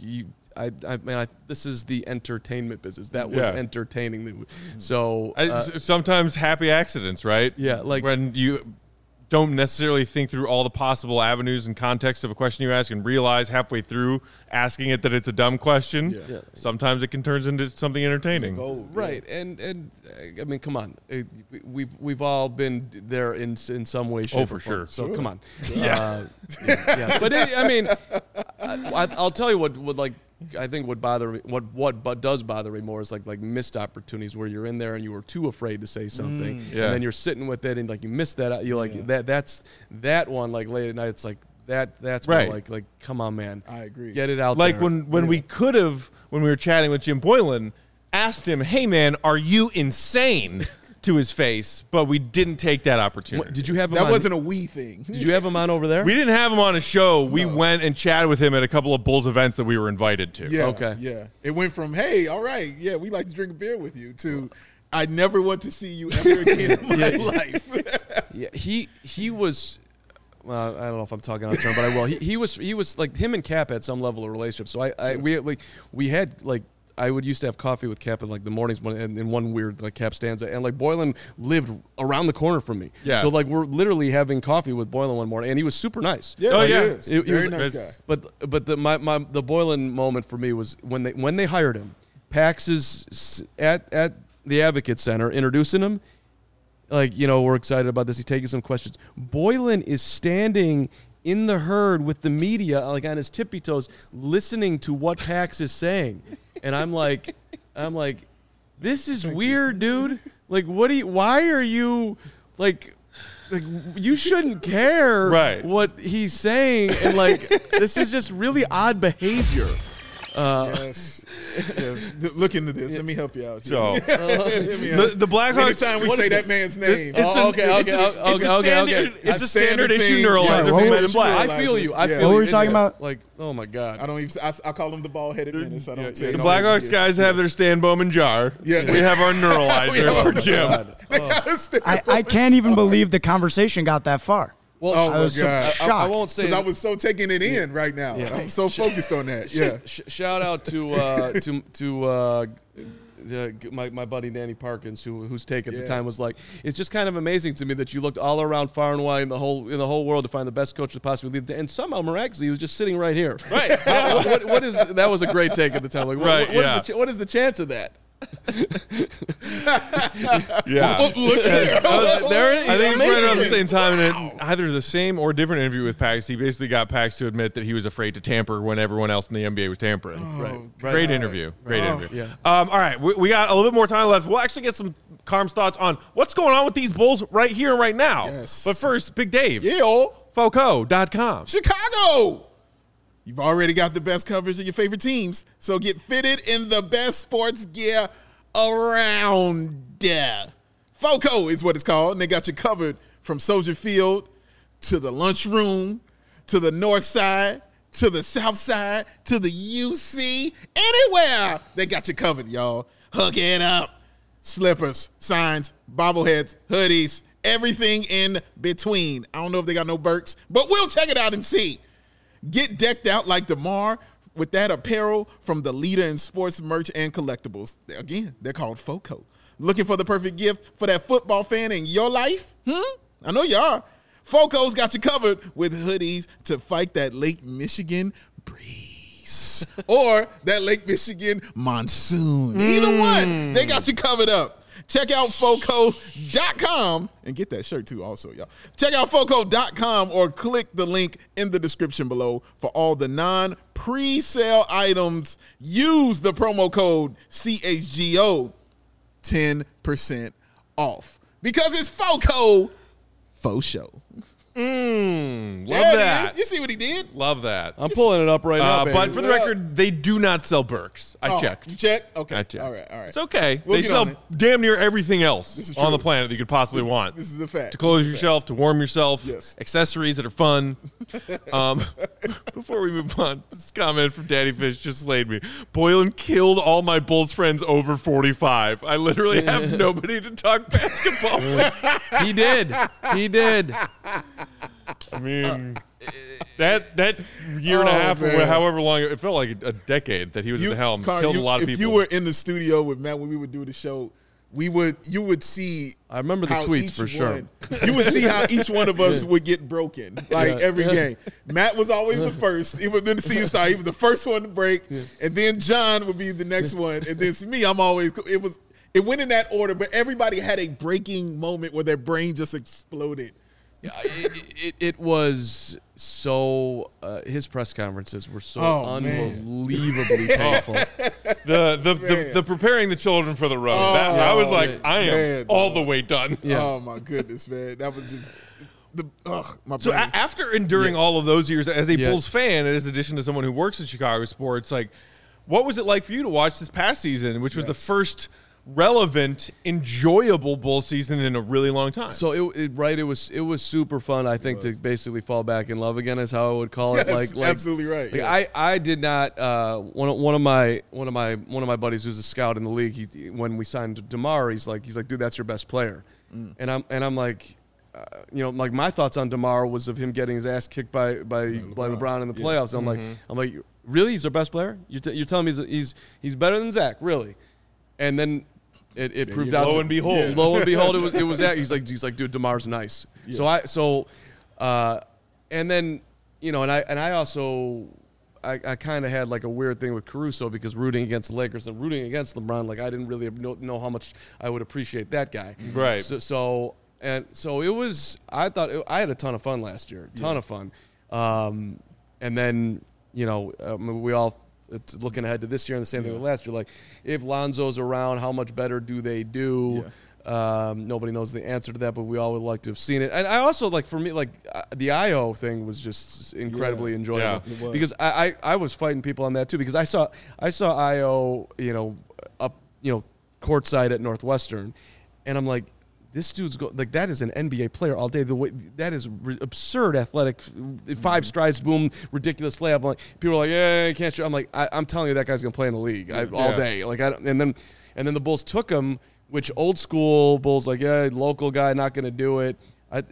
this is the entertainment business. That was entertaining. So sometimes happy accidents, right? Yeah, like when you don't necessarily think through all the possible avenues and context of a question you ask and realize halfway through asking it that it's a dumb question. Yeah. Sometimes it can turn into something entertaining. Right, and I mean, come on, we've all been there in some way, shape, or form. So come on, yeah. But I mean, I'll tell you what like. I think what does bother me more is like missed opportunities where you're in there and you were too afraid to say something, and then you're sitting with it and like you missed that. You like that's that one like late at night. It's like that's right. Like come on, man. I agree. Get it out. Like there. when we could have, when we were chatting with Jim Boylan, asked him, "Hey man, are you insane?" to his face, but we didn't take that opportunity. Did you have him that on? Wasn't a we thing. Did you have him on over there? We didn't have him on a show. We went and chatted with him at a couple of Bulls events that we were invited to. Yeah, okay. Yeah. It went from, hey, all right, yeah, we like to drink a beer with you, to I never want to see you ever again in my life. Yeah, he was. Well, I don't know if I'm talking out of turn, but I will. He was like him and Cap had some level of relationship. So we had like. I would used to have coffee with Cap in like the mornings in one weird like Cap stanza, and like Boylan lived around the corner from me. Yeah. So like we're literally having coffee with Boylan one morning, and he was super nice. Yeah, he is. He Very was nice guy. But the Boylan moment for me was when they hired him. Pax is at the Advocate Center introducing him. Like, we're excited about this. He's taking some questions. Boylan is standing in the herd with the media, like on his tippy toes, listening to what Pax is saying. And I'm like, this is weird, dude. Like, why are you like you shouldn't care what he's saying, and like this is just really odd behavior. Yes. Yeah. Look into this. Let me help you out. So the Blackhawks. Anytime we say that man's name, it's a standard issue neuralizer. I feel you. What were you talking about? Like, oh my god. I don't even. I call him the bald-headed menace. I don't say the Blackhawks guys have their Stan Bowman jar. Yeah. We have our neuralizer for Jim. I can't even believe the conversation got that far. Well, I was shocked. I won't say because I was so taking it in right now. Yeah. I'm so focused on that. Yeah. Shout out to my buddy Danny Parkins, whose take at the time was like, it's just kind of amazing to me that you looked all around far and wide in the whole world to find the best coach to possibly lead, and somehow miraculously he was just sitting right here. Right. What is that? Was a great take at the time. Like, what is the chance of that? Yeah. Look here. I think it's right around the same time, and either the same or different interview with Pax, he basically got Pax to admit that he was afraid to tamper when everyone else in the NBA was tampering. Great interview. Yeah. All right, we got a little bit more time left. We'll actually get some Carm's thoughts on what's going on with these Bulls right here and right now. Yes. But first, Big Dave. Yeah. Foco.com. Chicago. You've already got the best coverage of your favorite teams, so get fitted in the best sports gear around. Foco is what it's called, and they got you covered from Soldier Field to the lunchroom to the north side to the south side to the UC. Anywhere they got you covered, y'all. Hook it up. Slippers, signs, bobbleheads, hoodies, everything in between. I don't know if they got no Birks, but we'll check it out and see. Get decked out like DeMar with that apparel from the leader in sports merch and collectibles. Again, they're called Foco. Looking for the perfect gift for that football fan in your life? I know you are. Foco's got you covered with hoodies to fight that Lake Michigan breeze or that Lake Michigan monsoon. Either one, they got you covered up. Check out Foco.com and get that shirt too also, y'all. Check out Foco.com or click the link in the description below for all the non-pre-sale items. Use the promo code CHGO, 10% off. Because it's Foco, faux show. Love There it that. is. You see what he did? Love that. I'm pulling it up right now, baby. But for the record, they do not sell Birks. I checked. You checked? Okay. I checked. All right. It's okay. We'll they get on sell it. damn near everything else This is on true. the planet that you could possibly want. This is a fact. To clothe This is a fact. yourself, to warm yourself, Yes. accessories that are fun. Before we move on, this comment from Daddy Fish just slayed me. Boylan killed all my Bulls friends over 45. I literally have nobody to talk basketball with. He did. I mean, that year and a half, or man. however long, it felt like a decade that he was at the helm. Carl, Killed a lot of if people. you were in the studio with Matt when we would do the show, you would see. I remember the how tweets each for sure. one- You would see how each one of us would get broken, every game. Matt was always the first. Even then the season started, he was the first one to break, and then John would be the next one, and then me. It went in that order, but everybody had a breaking moment where their brain just exploded. It was so. His press conferences were so unbelievably painful. the preparing the children for the road. I was like, I am all the way done. Yeah. Oh my goodness, man, that was just my So brain. after enduring all of those years as a Bulls fan, and as addition to someone who works in Chicago sports, like, what was it like for you to watch this past season, which was the first relevant, enjoyable Bull season in a really long time? So it was super fun. I think to basically fall back in love again is how I would call it. Yes, Like absolutely right. Like I did not. One of my buddies who's a scout in the league. When we signed DeMar, he's like, dude, that's your best player. And I'm like, like my thoughts on DeMar was of him getting his ass kicked by LeBron in the playoffs. And I'm like, really, he's our best player? You're telling me he's better than Zach, really? And then it proved out. Lo and behold, it was that. He's like, dude, DeMar's nice. Yeah. And then and I also I kind of had like a weird thing with Caruso because rooting against the Lakers and rooting against LeBron, like I didn't really know how much I would appreciate that guy. Right. So it was. I thought I had a ton of fun last year. Ton of fun. And then we all. It's looking ahead to this year and the same thing with last year. Like, if Lonzo's around, how much better do they do? Yeah. Nobody knows the answer to that, but we all would like to have seen it. And I also, like, for me, like, the IO thing was just incredibly enjoyable. Yeah, because I was fighting people on that, too, because I saw IO, up, courtside at Northwestern, and I'm like, this dude's like that is an NBA player all day. The way that is absurd, athletic, 5 strides, boom, ridiculous layup. I'm like, people are like, yeah, you can't shoot. I'm like, I'm telling you, that guy's gonna play in the league all day. Like, and then the Bulls took him, which old school Bulls like, yeah, local guy, not gonna do it.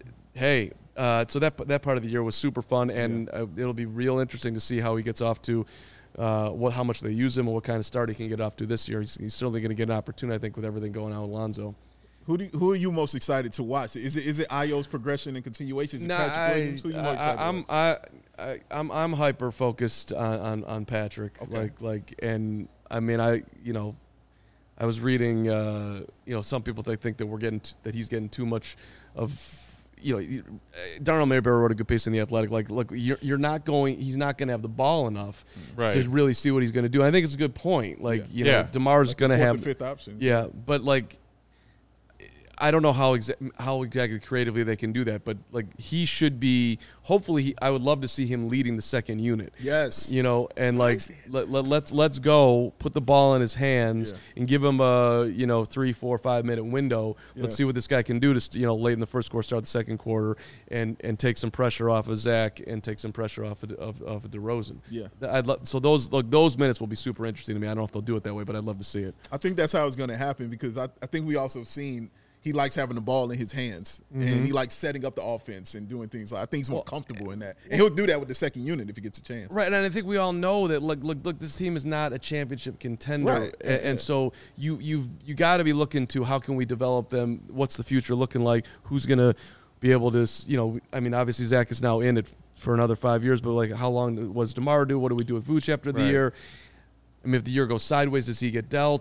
So that part of the year was super fun, and it'll be real interesting to see how he gets off to. How much they use him and what kind of start he can get off to this year. He's certainly going to get an opportunity, I think, with everything going on with Lonzo. Who are you most excited to watch? Is it Io's progression and continuation? Patrick Williams? Who are you most excited I'm hyper focused on Patrick. Okay. And I mean I was reading some people think that that he's getting too much of. Darnell Mayberry wrote a good piece in The Athletic. Like, look, he's not going to have the ball enough to really see what he's going to do. And I think it's a good point. Like, DeMar's going to have the 5th option. Yeah, but like, I don't know how exactly creatively they can do that, but like he should be. Hopefully, I would love to see him leading the second unit. Yes, and like let's go put the ball in his hands and give him a 3, 4, 5 minute window. Yes. Let's see what this guy can do to late in the first quarter, start the second quarter, and take some pressure off of Zach and take some pressure off of DeRozan. Yeah, so those minutes will be super interesting to me. I don't know if they'll do it that way, but I'd love to see it. I think that's how it's going to happen because I think we also seen. He likes having the ball in his hands, and he likes setting up the offense and doing things. I think he's more comfortable in that, and he'll do that with the second unit if he gets a chance. Right, and I think we all know that. Look, this team is not a championship contender, right. and so you got to be looking to how can we develop them? What's the future looking like? Who's going to be able to? I mean, obviously Zach is now in it for another 5 years, but like, how long was DeMar do? What do we do with Vooch after the year? I mean, if the year goes sideways, does he get dealt?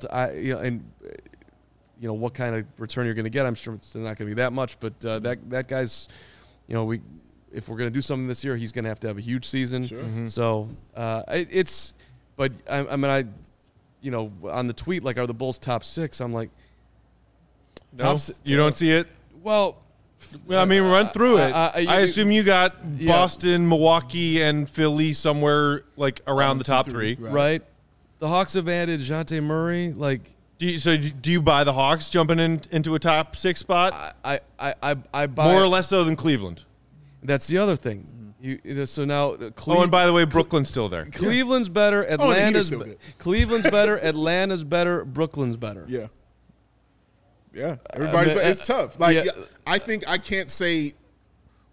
What kind of return you're going to get. I'm sure it's not going to be that much, but that guy's, if we're going to do something this year, he's going to have a huge season. Sure. Mm-hmm. So but I mean, on the tweet, like, are the Bulls top 6? I'm like, no, you don't see it? Well, I mean, run through it. I assume you got Yeah. Boston, Milwaukee, and Philly somewhere like around the top 3. Right. The Hawks have added DeJounte Murray, like. Do you buy the Hawks jumping into a top 6 spot? I buy more or less so than Cleveland. That's the other thing. So now and by the way, Brooklyn's still there. Cleveland's better. Atlanta's still good. Cleveland's better. Atlanta's better. Brooklyn's better. Yeah. Yeah. Everybody, it's tough. Like, I think I can't say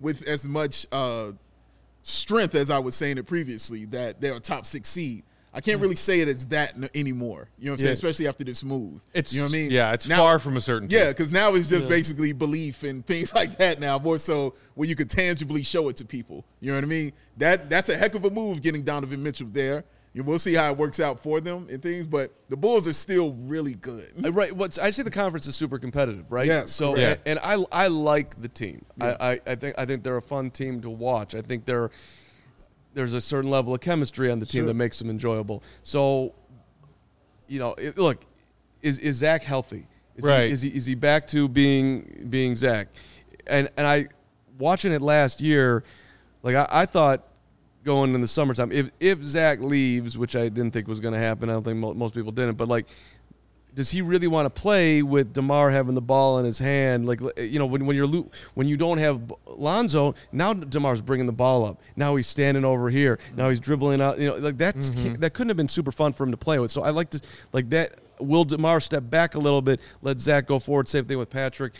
with as much strength as I was saying it previously, that they're a top 6 seed. I can't really say it as that anymore. You know what I'm saying? Especially after this move. You know what I mean? Yeah, it's now, far from a certainty. Yeah, because now it's just basically belief and things like that now, more so where you could tangibly show it to people. You know what I mean? That's a heck of a move getting Donovan Mitchell there. We'll see how it works out for them and things, but the Bulls are still really good. Right. I say the conference is super competitive, right? Yes, So, correct. and I like the team. Yeah. I think they're a fun team to watch. I think there's a certain level of chemistry on the team that makes them enjoyable. So, look, is Zach healthy? Is he back to being Zach? And I watching it last year, like I thought going in the summertime, if Zach leaves, which I didn't think was going to happen, I don't think most people didn't, but like, does he really want to play with DeMar having the ball in his hand? Like, when you don't have Lonzo, now DeMar's bringing the ball up. Now he's standing over here. Now he's dribbling out. That couldn't have been super fun for him to play with. So I like to like that. Will DeMar step back a little bit? Let Zach go forward. Same thing with Patrick.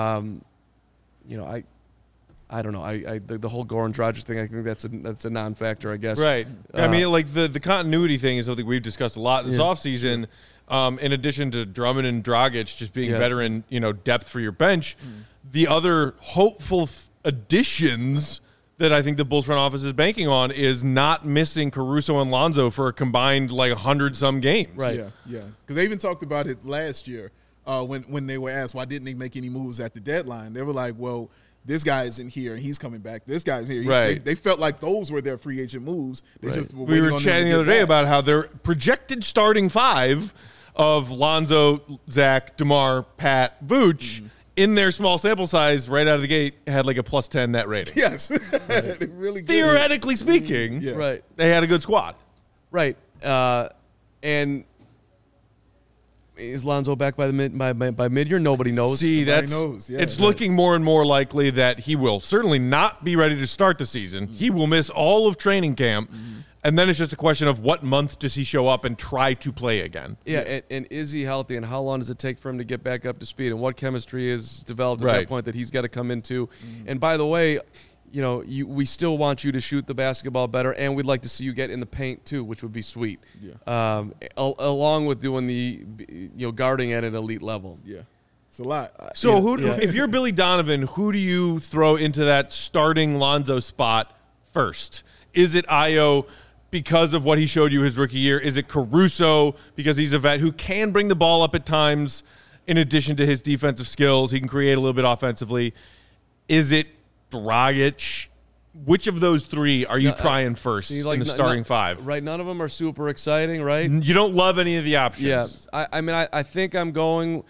I don't know. The whole Goran Dragic thing, I think that's a non-factor, I guess. Right. I mean, like the continuity thing is something we've discussed a lot this offseason. In addition to Drummond and Dragic just being veteran, depth for your bench, the other hopeful additions that I think the Bulls front office is banking on is not missing Caruso and Lonzo for a combined 100-some games. Right. Yeah. Because they even talked about it last year when they were asked why didn't they make any moves at the deadline. They were like, well, this guy isn't here and he's coming back. This guy's here. Right. They felt like those were their free agent moves. They just were we were chatting the other day about how their projected starting five of Lonzo, Zach, DeMar, Pat, Vooch in their small sample size right out of the gate had like a +10 net rating. Yes. They really good. Theoretically speaking, Right. they had a good squad. Right. And is Lonzo back by mid-year? Nobody knows. See, it's looking more and more likely that he will certainly not be ready to start the season. He will miss all of training camp, and then it's just a question of what month does he show up and try to play again. Yeah, and is he healthy, and how long does it take for him to get back up to speed, and what chemistry is developed at that point that he's got to come into. And by the way, we still want you to shoot the basketball better, and we'd like to see you get in the paint too, which would be sweet. Yeah. Along with doing the guarding at an elite level. Yeah, it's a lot. So if you're Billy Donovan, who do you throw into that starting Lonzo spot first? Is it Ayo because of what he showed you his rookie year? Is it Caruso because he's a vet who can bring the ball up at times in addition to his defensive skills? He can create a little bit offensively. Is it Dragic? Which of those three are you trying first in the starting five? Right, none of them are super exciting, right? You don't love any of the options. Yeah, I think I'm going.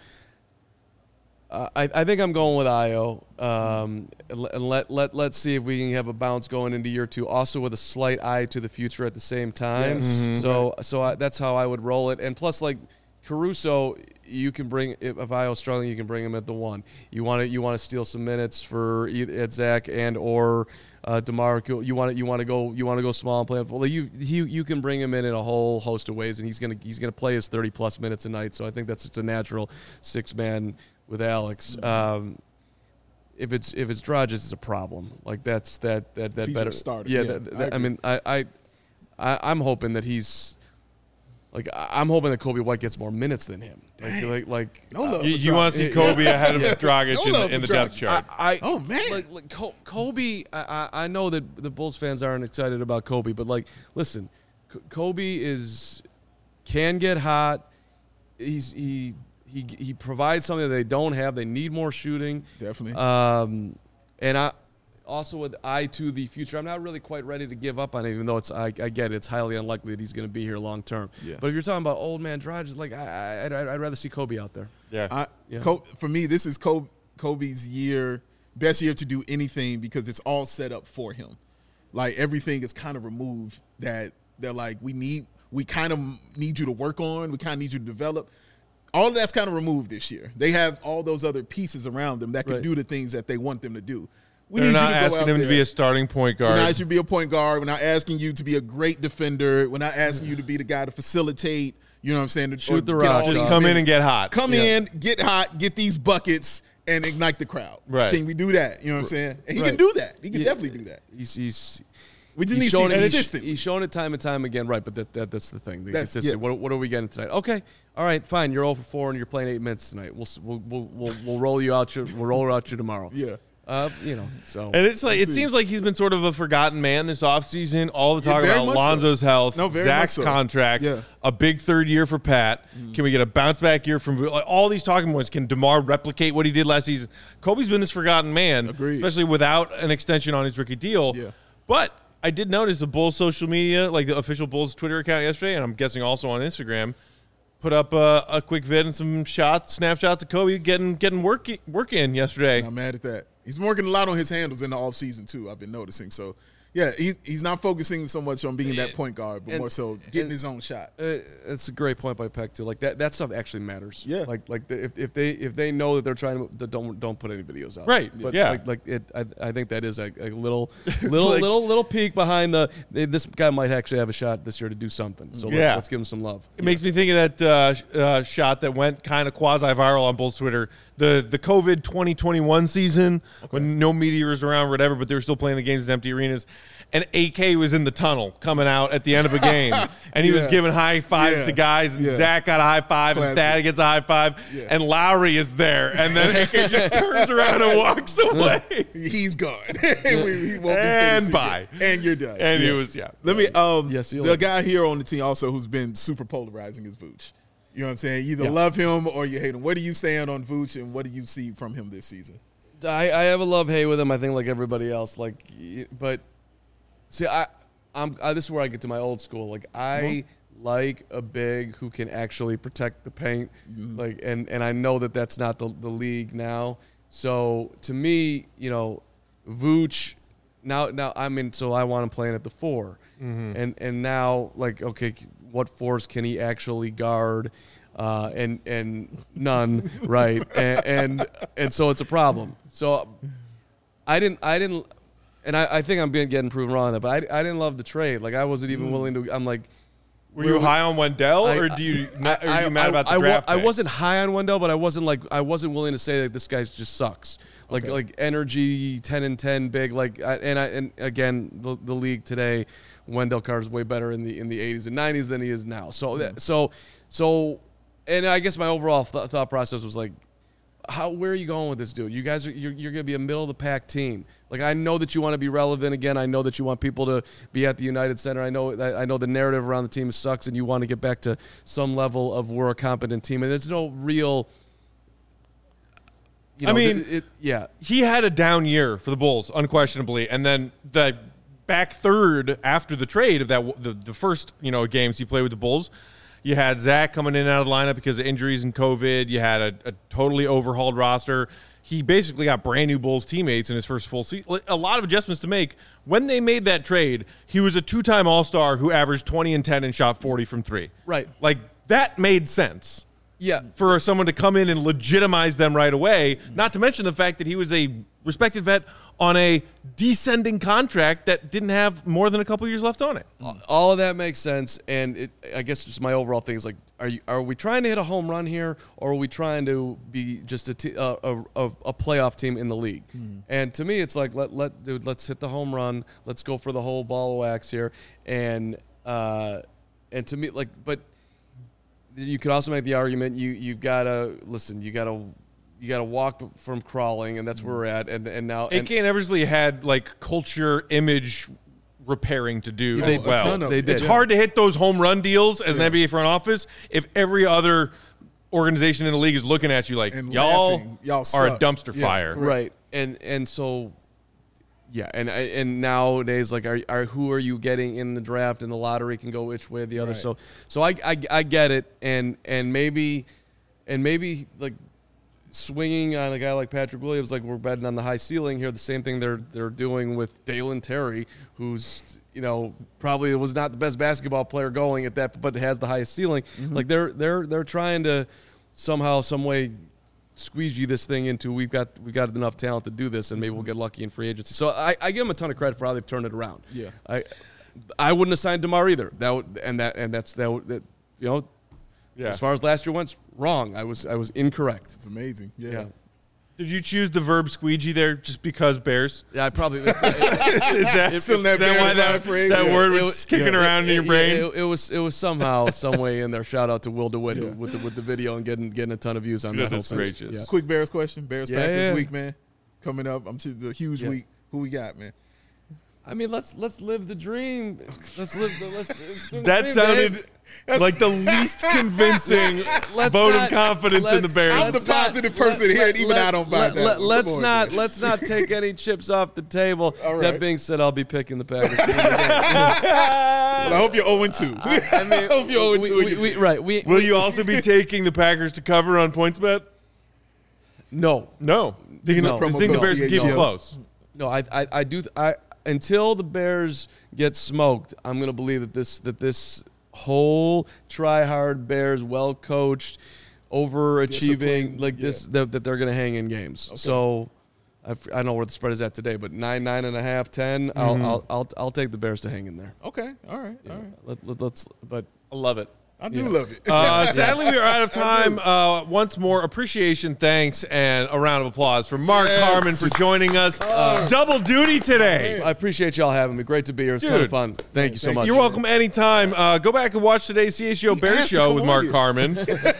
I think I'm going with Ayo. Let's see if we can have a bounce going into year two. Also with a slight eye to the future at the same time. Yes. So that's how I would roll it. And plus, like Caruso, you can bring if Ayo's struggling, you can bring him at the one. You want to steal some minutes for at Zach and or DeMar. You want to go small and play. Well, you can bring him in a whole host of ways, and he's gonna play his 30+ minutes a night. So I think that's just a natural 6-man with Alex. If it's Dragic, it's a problem. Like that's that better starter. Yeah, I'm hoping that he's. Like I'm hoping that Kobe White gets more minutes than him. You want to see Kobe ahead of Dragic in the depth chart? Kobe. I know that the Bulls fans aren't excited about Kobe, but listen, Kobe can get hot. He provides something that they don't have. They need more shooting. Definitely. And I. Also, with eye to the future, I'm not really quite ready to give up on it, even though I get it. It's highly unlikely that he's going to be here long term. Yeah. But if you're talking about old man Dragic, I'd rather see Kobe out there. Yeah. For me, this is Kobe's best year to do anything because it's all set up for him. Like everything is kind of removed that they're like, we kind of need you to work on. We kind of need you to develop. All of that's kind of removed this year. They have all those other pieces around them that can do the things that they want them to do. They're not asking him to be a starting point guard. We're not asking you to be a point guard. We're not asking you to be a great defender. We're not asking you to be the guy to facilitate. You know what I'm saying? Shoot the rock. Just come in and get hot. Come in, get hot, get these buckets, and ignite the crowd. Right. Can we do that? You know what I'm saying? And he Right. can do that. He can Yeah. definitely do that. He's We just need He's to see shown it it. consistent. He's shown it time and time again, right? But that's the thing. The That's- consistent. yes. What are we getting tonight? Okay, all right, fine. You're 0 for 4 and you're playing 8 minutes tonight. We'll roll you out. We'll roll out you tomorrow. Yeah. So And it's like it see. seems like he's been sort of a forgotten man this offseason. All the talk very about much so. Lonzo's health, No, very Zach's much so. contract, Yeah. a big third year for Pat. Can we get a bounce back year from like, all these talking points? Can DeMar replicate what he did last season? Kobe's been this forgotten man, Agreed. especially without an extension on his rookie deal. Yeah. But I did notice the Bulls social media, like the official Bulls Twitter account yesterday, and I'm guessing also on Instagram, put up a quick vid and some snapshots of Kobe getting work in yesterday. Not mad at that. He's working a lot on his handles in the offseason too. I've been noticing. So, yeah, he's not focusing so much on being that point guard, but more so getting his own shot. it's a great point by Peck too. Like that stuff actually matters. Yeah. If they know that they're trying to don't put any videos out. Right, But yeah. I think that is a little peek behind this guy might actually have a shot this year to do something. So Yeah. let's give him some love. It makes me think of that shot that went kind of quasi-viral on Bulls Twitter. The COVID 2021 season when no media was around, whatever, but they were still playing the games in empty arenas. And AK was in the tunnel coming out at the end of a game, and he was Yeah. giving high fives Yeah. to guys, and Yeah. Zach got a high five, and Classic. Thad gets a high five, Yeah. and Lowry is there, and then AK just turns around and walks away. He's gone. He won't be And finished bye. again. And you're done. And Yeah. it was, yeah. Let me. Yes, you'll the like guy here on the team also who's been super polarizing is Vooch. You know what I'm saying? You either Yeah. love him or you hate him. Where do you stand on Vooch, and what do you see from him this season? I have a love-hate with him. I think like everybody else. But see, this is where I get to my old school. Like I like a big who can actually protect the paint. Like and I know that that's not the league now. So to me, Vooch. Now so I want him playing at the 4, and now like okay, what 4s can he actually guard? And none, right? And so it's a problem. So I didn't, and I think I'm getting proven wrong on that. But I didn't love the trade. Like I wasn't even willing to. I'm like, Were you high on Wendell, or are you mad about the draft I picks? wasn't high on Wendell, but I wasn't willing to say that this guy just sucks. Like energy, 10 and 10, big. And again, the league today, Wendell Carter's way better in the 80s and 90s than he is now. So, and I guess my overall thought process was like, where are you going with this dude? You guys you're going to be a middle of the pack team. Like I know that you want to be relevant again. I know that you want people to be at the United Center. I know the narrative around the team sucks, and you want to get back to some level of we're a competent team. And there's no real. He had a down year for the Bulls, unquestionably, and then the back third after the trade of the first games he played with the Bulls. You had Zach coming in and out of the lineup because of injuries and COVID. You had a totally overhauled roster. He basically got brand new Bulls teammates in his first full season. A lot of adjustments to make. When they made that trade, he was a 2-time All-Star who averaged 20 and 10 and shot 40 from 3. Right. Like, that made sense. Yeah. For someone to come in and legitimize them right away, not to mention the fact that he was a respected vet on a descending contract that didn't have more than a couple years left on it. All of that makes sense, and I guess just my overall thing is like, are we trying to hit a home run here, or are we trying to be just a playoff team in the league? And to me, it's like let's hit the home run, let's go for the whole ball of wax here, and to me, like, but you could also make the argument you've got to listen, you got to walk from crawling, and that's where we're at. And now AK and Eversley had like culture image repairing to do as well. a ton of They it. did. It's hard to hit those home run deals as an NBA front office if every other organization in the league is looking at you like And y'all laughing. Y'all are a suck. dumpster Yeah, fire. correct. right, and so. Yeah, and nowadays, like, are who are you getting in the draft, and the lottery can go which way or the other. Right. So I get it, and maybe like swinging on a guy like Patrick Williams, like we're betting on the high ceiling here. The same thing they're doing with Dalen Terry, who's probably was not the best basketball player going at that, but has the highest ceiling. Like they're trying to somehow, some way, squeeze you this thing into we've got enough talent to do this, and maybe we'll get lucky in free agency. So I give them a ton of credit for how they've turned it around. Yeah. I wouldn't have signed DeMar either. That's Yeah. as far as last year went, wrong. I was incorrect. It's amazing. Yeah. Did you choose the verb squeegee there just because Bears? Yeah, I probably. Is that, Still in that is that why Bears that, line phrase? that Yeah. word was kicking around in your brain? It was somehow, some way in there. Shout out to Will DeWitt with the video and getting a ton of views on that whole Goodness thing. gracious. Yeah. Quick Bears question. Bears Yeah, Packers yeah. week, man. Coming up. I'm sure it's a huge week. Who we got, man? I mean, let's live the dream. Let's live the That dream, sounded babe. like the least convincing Let's vote not- of confidence in the let's- Bears. I'm the positive person here, and even I don't buy that. Let's Come on, not man. let's not take any chips off the table. All right. That being said, I'll be picking the Packers. Well, I hope you're 0-2. I mean, I hope you're 0-2. right. Will you also be taking the Packers to cover on PointsBet? No. No. You think Promo the code Bears can keep them CHGO. close? No, I do. Until the Bears get smoked, I'm going to believe that this whole try-hard Bears, well-coached, overachieving, Disciplined, like this, that they're going to hang in games. So I don't know where the spread is at today, but 9.5, 10. I'll take the Bears to hang in there. Okay. All right. Let's. But I love it. I do love it. Sadly, we are out of time. Once more, appreciation, thanks, and a round of applause for Mark Carman for joining us. Double duty today. I appreciate y'all having me. Great to be here. It's a ton Dude. of fun. Thank you so much. You're welcome anytime. Go back and watch today's CHGO Bears asked to show come with on Mark here. Carman.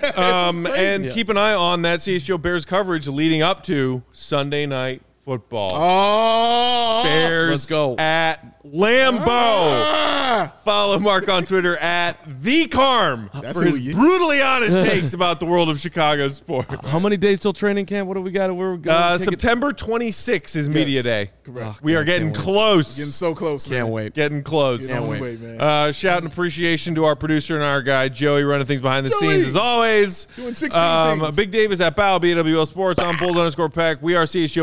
And keep an eye on that CHGO Bears coverage leading up to Sunday Night Football. Oh. Bears Let's go. at Lambeau. Follow Mark on Twitter at TheCarm That's for who his you- brutally honest takes about the world of Chicago sports. How many days till training camp? What do we got? Where we going? September 26th is Media Day. Correct. We are getting close. Getting so close, man. Can't wait. Getting close. Can't wait, man. Shout and appreciation to our producer and our guy, Joey, running things behind the Joey! scenes as always. Doing 16 things. Big Dave is at Bow, BWL Sports, on Bulls_Pack. We are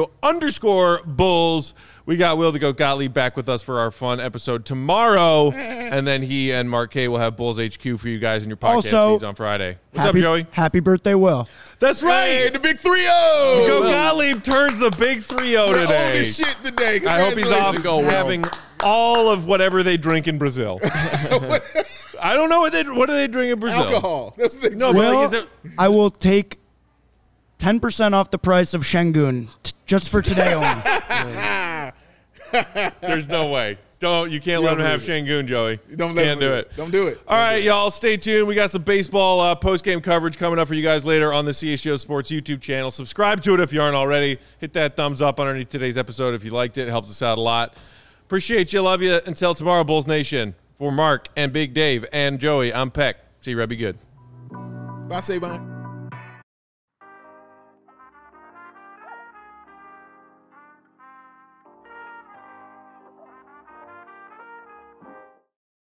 CHGO_Bulls. We got Will the Goat Gottlieb back with us for our fun episode tomorrow. And then he and Mark K will have Bulls HQ for you guys in your podcast Also, feeds on Friday. What's happy, up, Joey? Happy birthday, Will. That's right. Hey, the big 3-0. Goat Gottlieb turns the big 3-0 We're old today. as shit today. I hope he's off Congratulations. having all of whatever they drink in Brazil. I don't know what do they drink in Brazil. Alcohol. That's the No, but Will, like, is it, I will take 10% off the price of Shengun just for today only. there's no way. You can't let him have Shangoon, Joey. Don't let Can't him do it. Don't do it. All right, y'all, stay tuned. We got some baseball post-game coverage coming up for you guys later on the CHGO Sports YouTube channel. Subscribe to it if you aren't already. Hit that thumbs up underneath today's episode if you liked it. It helps us out a lot. Appreciate you. Love you. Until tomorrow, Bulls Nation. For Mark and Big Dave and Joey, I'm Peck. See you, Red. Be good. Bye, Sabine.